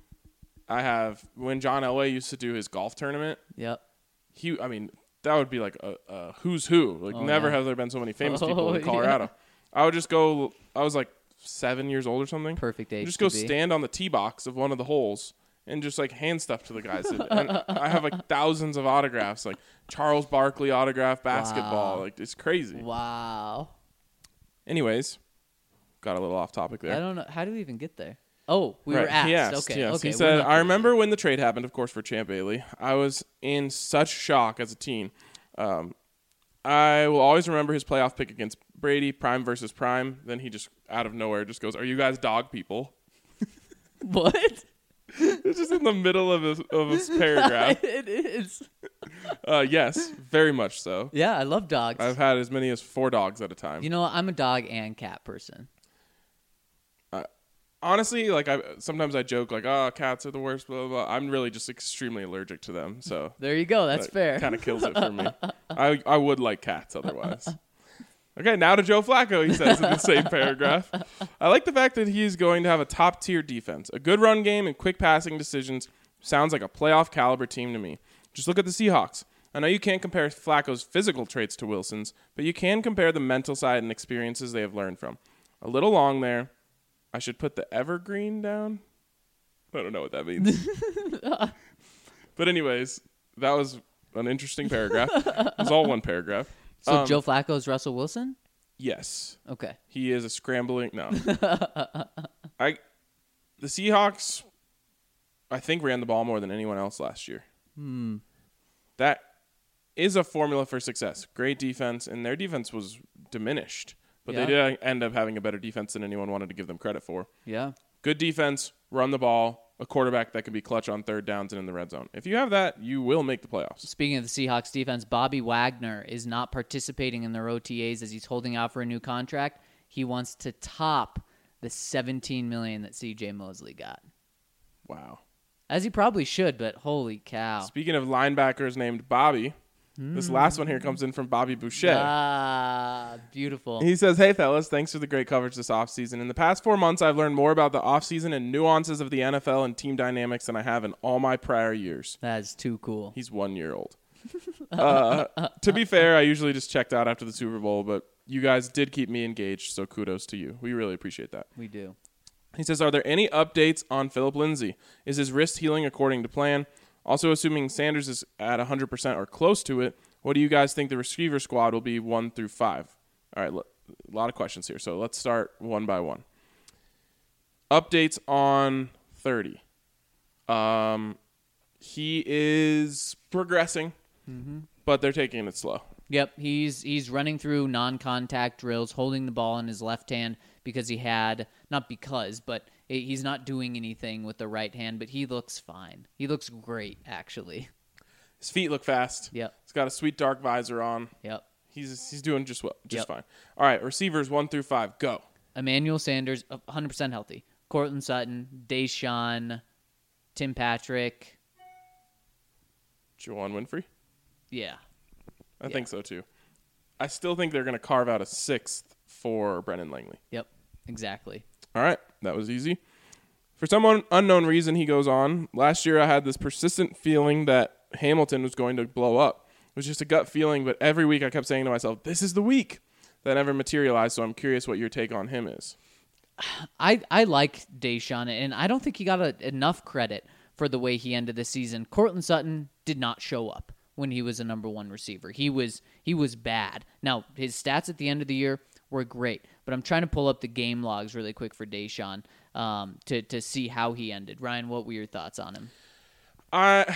I have when John Elway used to do his golf tournament. Yep. He, I mean, that would be like a, a who's who. Like, Oh, never yeah. have there been so many famous Oh, people in yeah. Colorado. I would just go. I was like seven years old or something. Perfect age Just to go be. stand on the tee box of one of the holes and just like hand stuff to the guys. And I have like thousands of autographs, like Charles Barkley autograph basketball. Wow. Like it's crazy. Wow. Anyways, got a little off topic there. I don't know. How do we even get there? Oh, we Right, were asked. He asked, okay. yes. Okay. He we're said, not I crazy. remember when the trade happened, of course, for Champ Bailey. I was in such shock as a teen. Um, I will always remember his playoff pick against Brady, prime versus prime. Then he just, out of nowhere, just goes, "Are you guys dog people?" What? It's just in the middle of his, of his paragraph. It is. Uh, yes, very much so. Yeah, I love dogs. I've had as many as four dogs at a time. you know, what? I'm a dog and cat person. Honestly, like I sometimes I joke like, "Oh, cats are the worst." Blah blah. blah. I'm really just extremely allergic to them, so There you go. That's fair. Kind of kills it for me. I I would like cats otherwise. Okay, now to Joe Flacco. He says in the same paragraph. I like the fact that he's going to have a top tier defense, a good run game, and quick passing decisions. Sounds like a playoff caliber team to me. Just look at the Seahawks. I know you can't compare Flacco's physical traits to Wilson's, but you can compare the mental side and experiences they have learned from. A little long there. I should put the evergreen down. I don't know what that means. But anyways, that was an interesting paragraph. It was all one paragraph. So Um, Joe Flacco's Russell Wilson? Yes. Okay. He is a scrambling no. I the Seahawks I think ran the ball more than anyone else last year. Hmm. That is a formula for success. Great defense, and their defense was diminished. But Yeah. they did end up having a better defense than anyone wanted to give them credit for. Yeah. Good defense, run the ball, a quarterback that can be clutch on third downs and in the red zone. If you have that, you will make the playoffs. Speaking of the Seahawks defense, Bobby Wagner is not participating in their O T As as he's holding out for a new contract. He wants to top the seventeen million dollars that C J Mosley got. Wow. As he probably should, but holy cow. Speaking of linebackers named Bobby, this last one here comes in from Bobby Boucher. Ah, beautiful. He says, "Hey, fellas, thanks for the great coverage this offseason. In the past four months, I've learned more about the offseason and nuances of the N F L and team dynamics than I have in all my prior years." That is too cool. He's one year old. uh, to be fair, I usually just checked out after the Super Bowl, but you guys did keep me engaged, so kudos to you. We really appreciate that. We do. He says, "Are there any updates on Philip Lindsay? Is his wrist healing according to plan? Also, assuming Sanders is at one hundred percent or close to it, what do you guys think the receiver squad will be one through five?" All right, look, a lot of questions here, so let's start one by one. Updates on thirty. Um, he is progressing, but they're taking it slow. Yep, he's he's running through non-contact drills, holding the ball in his left hand because he had, not because, but he's not doing anything with the right hand, but he looks fine. He looks great, actually. His feet look fast. Yep. He's got a sweet dark visor on. Yep. He's he's doing just well, just Yep. fine. All right, receivers one through five, go. Emmanuel Sanders, one hundred percent healthy. Cortland Sutton, Deshaun, Tim Patrick. Juwan Winfrey? Yeah. I Yeah. think so too. I still think they're going to carve out a sixth for Brendan Langley. Yep, exactly. All right, that was easy. For some un- unknown reason, he goes on. Last year, I had this persistent feeling that Hamilton was going to blow up. It was just a gut feeling, but every week I kept saying to myself, this is the week. That never materialized, so I'm curious what your take on him is. I, I like Deshaun, and I don't think he got a, enough credit for the way he ended the season. Cortland Sutton did not show up when he was a number one receiver. He was he was bad. Now, his stats at the end of the year were great, but I'm trying to pull up the game logs really quick for Deshaun um, to, to see how he ended. Ryan, what were your thoughts on him? I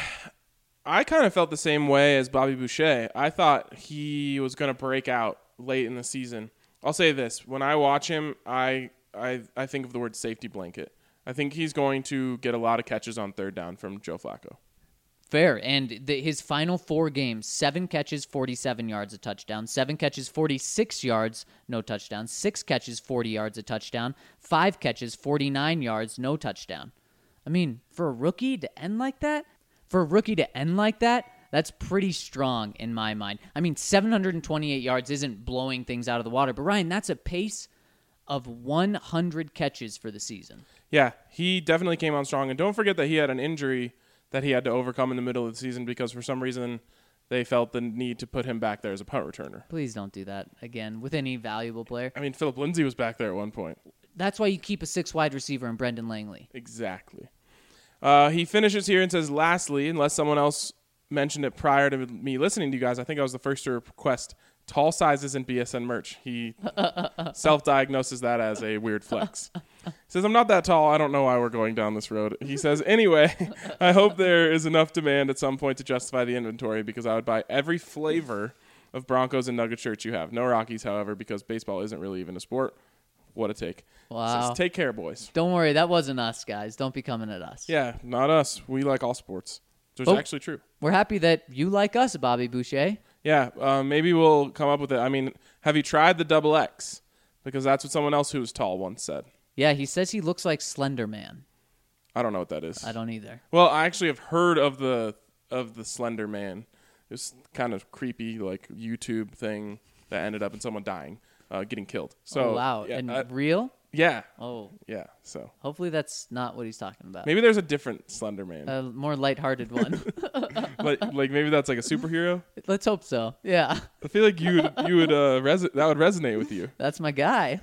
I kind of felt the same way as Bobby Boucher. I thought he was going to break out late in the season. I'll say this. When I watch him, I, I I think of the word safety blanket. I think he's going to get a lot of catches on third down from Joe Flacco. Fair. And the, his final four games, seven catches, forty-seven yards, a touchdown. Seven catches, forty-six yards, no touchdown. Six catches, forty yards, a touchdown. Five catches, forty-nine yards, no touchdown. I mean, for a rookie to end like that, for a rookie to end like that, that's pretty strong in my mind. I mean, seven hundred twenty-eight yards isn't blowing things out of the water, but Ryan, that's a pace of one hundred catches for the season. Yeah, he definitely came on strong. And don't forget that he had an injury that he had to overcome in the middle of the season because for some reason they felt the need to put him back there as a punt returner. Please don't do that again with any valuable player. I mean, Philip Lindsay was back there at one point. That's why you keep a six wide receiver in Brendan Langley. Exactly. Uh, he finishes here and says, lastly, unless someone else mentioned it prior to me listening to you guys, I think I was the first to request tall sizes in B S N merch. He self-diagnoses that as a weird flex. He says, I'm not that tall. I don't know why we're going down this road. He says, anyway, I hope there is enough demand at some point to justify the inventory because I would buy every flavor of Broncos and Nugget shirts you have. No Rockies, however, because baseball isn't really even a sport. What a take. Wow. Says, take care, boys. Don't worry, that wasn't us, guys. Don't be coming at us. Yeah, not us. We like all sports. So it's Oh. actually true. We're happy that you like us, Bobby Boucher. Yeah, uh, maybe we'll come up with it. I mean, have you tried the double X? Because that's what someone else who was tall once said. Yeah, he says he looks like Slender Man. I don't know what that is. I don't either. Well, I actually have heard of the of the Slender Man. It was kind of creepy, like YouTube thing that ended up in someone dying, uh, getting killed. So oh, wow. yeah, and uh, real? yeah, Oh, yeah. So hopefully that's not what he's talking about. maybe there's a different Slender Man. A more lighthearted one. like, like maybe that's like a superhero. Let's hope so. Yeah, I feel like you would you would uh, res- that would resonate with you. that's my guy.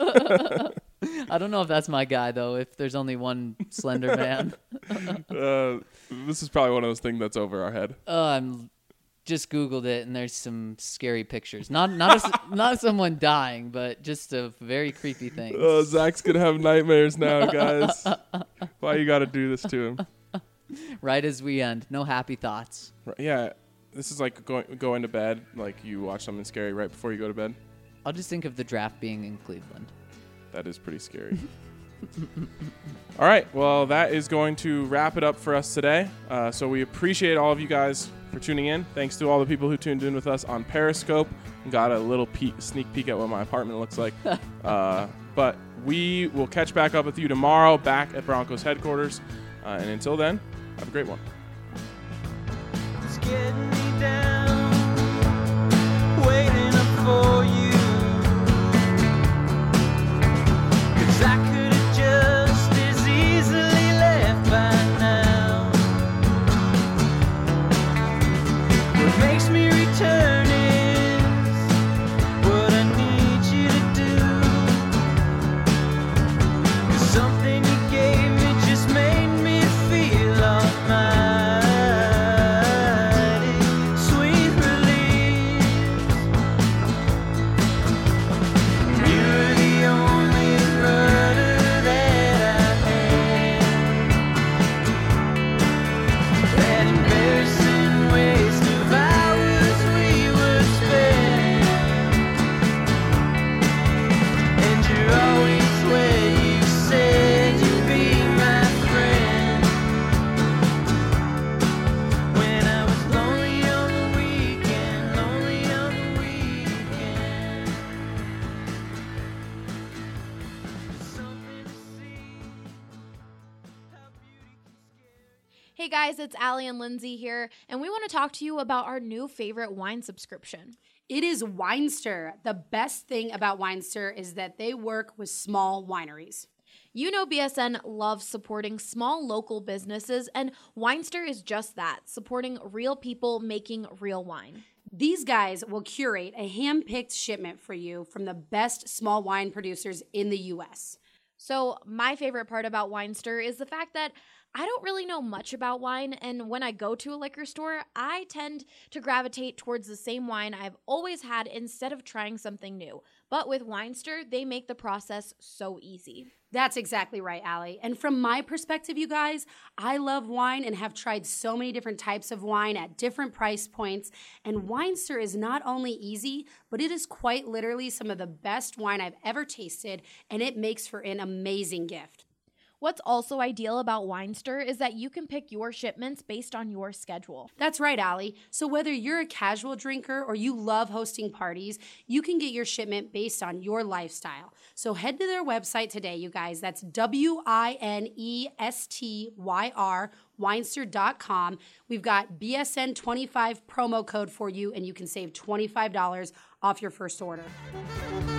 I don't know if that's my guy, though, if there's only one Slender Man. Uh, this is probably one of those things that's over our head. Oh, I'm just Googled it, and there's some scary pictures. Not not a, not someone dying, but just a very creepy thing. Oh, Zach's gonna have nightmares now, guys. Why you got to do this to him? Right as we end, no happy thoughts. Right, yeah, this is like going going to bed. Like you watch something scary right before you go to bed. I'll just think of the draft being in Cleveland. That is pretty scary. All right, well, that is going to wrap it up for us today. Uh, so we appreciate all of you guys for tuning in. Thanks to all the people who tuned in with us on Periscope and got a little peek, sneak peek at what my apartment looks like. uh, but we will catch back up with you tomorrow back at Broncos headquarters. Uh, and until then, have a great one. It's getting me down, waiting up for you. 'Cause I could have just as easily left by now. What makes me return is what I need you to do. 'Cause something you gave me just made me feel almighty. Sweet release. You're the only rudder that I had. That embarrassing waste of hours Hey guys, it's Allie and Lindsay here, and we want to talk to you about our new favorite wine subscription. It is Winester. The best thing about Winester is that they work with small wineries. You know B S N loves supporting small local businesses, and Winester is just that, supporting real people making real wine. These guys will curate a hand-picked shipment for you from the best small wine producers in the U S. So my favorite part about Winester is the fact that I don't really know much about wine, and when I go to a liquor store, I tend to gravitate towards the same wine I've always had instead of trying something new. But with Winester, they make the process so easy. That's exactly right, Allie. And from my perspective, you guys, I love wine and have tried so many different types of wine at different price points. And Winester is not only easy, but it is quite literally some of the best wine I've ever tasted, and it makes for an amazing gift. What's also ideal about Winester is that you can pick your shipments based on your schedule. That's right, Allie. So whether you're a casual drinker or you love hosting parties, you can get your shipment based on your lifestyle. So head to their website today, you guys. That's W I N E S T Y R, winester dot com. We've got B S N twenty-five promo code for you, and you can save twenty-five dollars off your first order.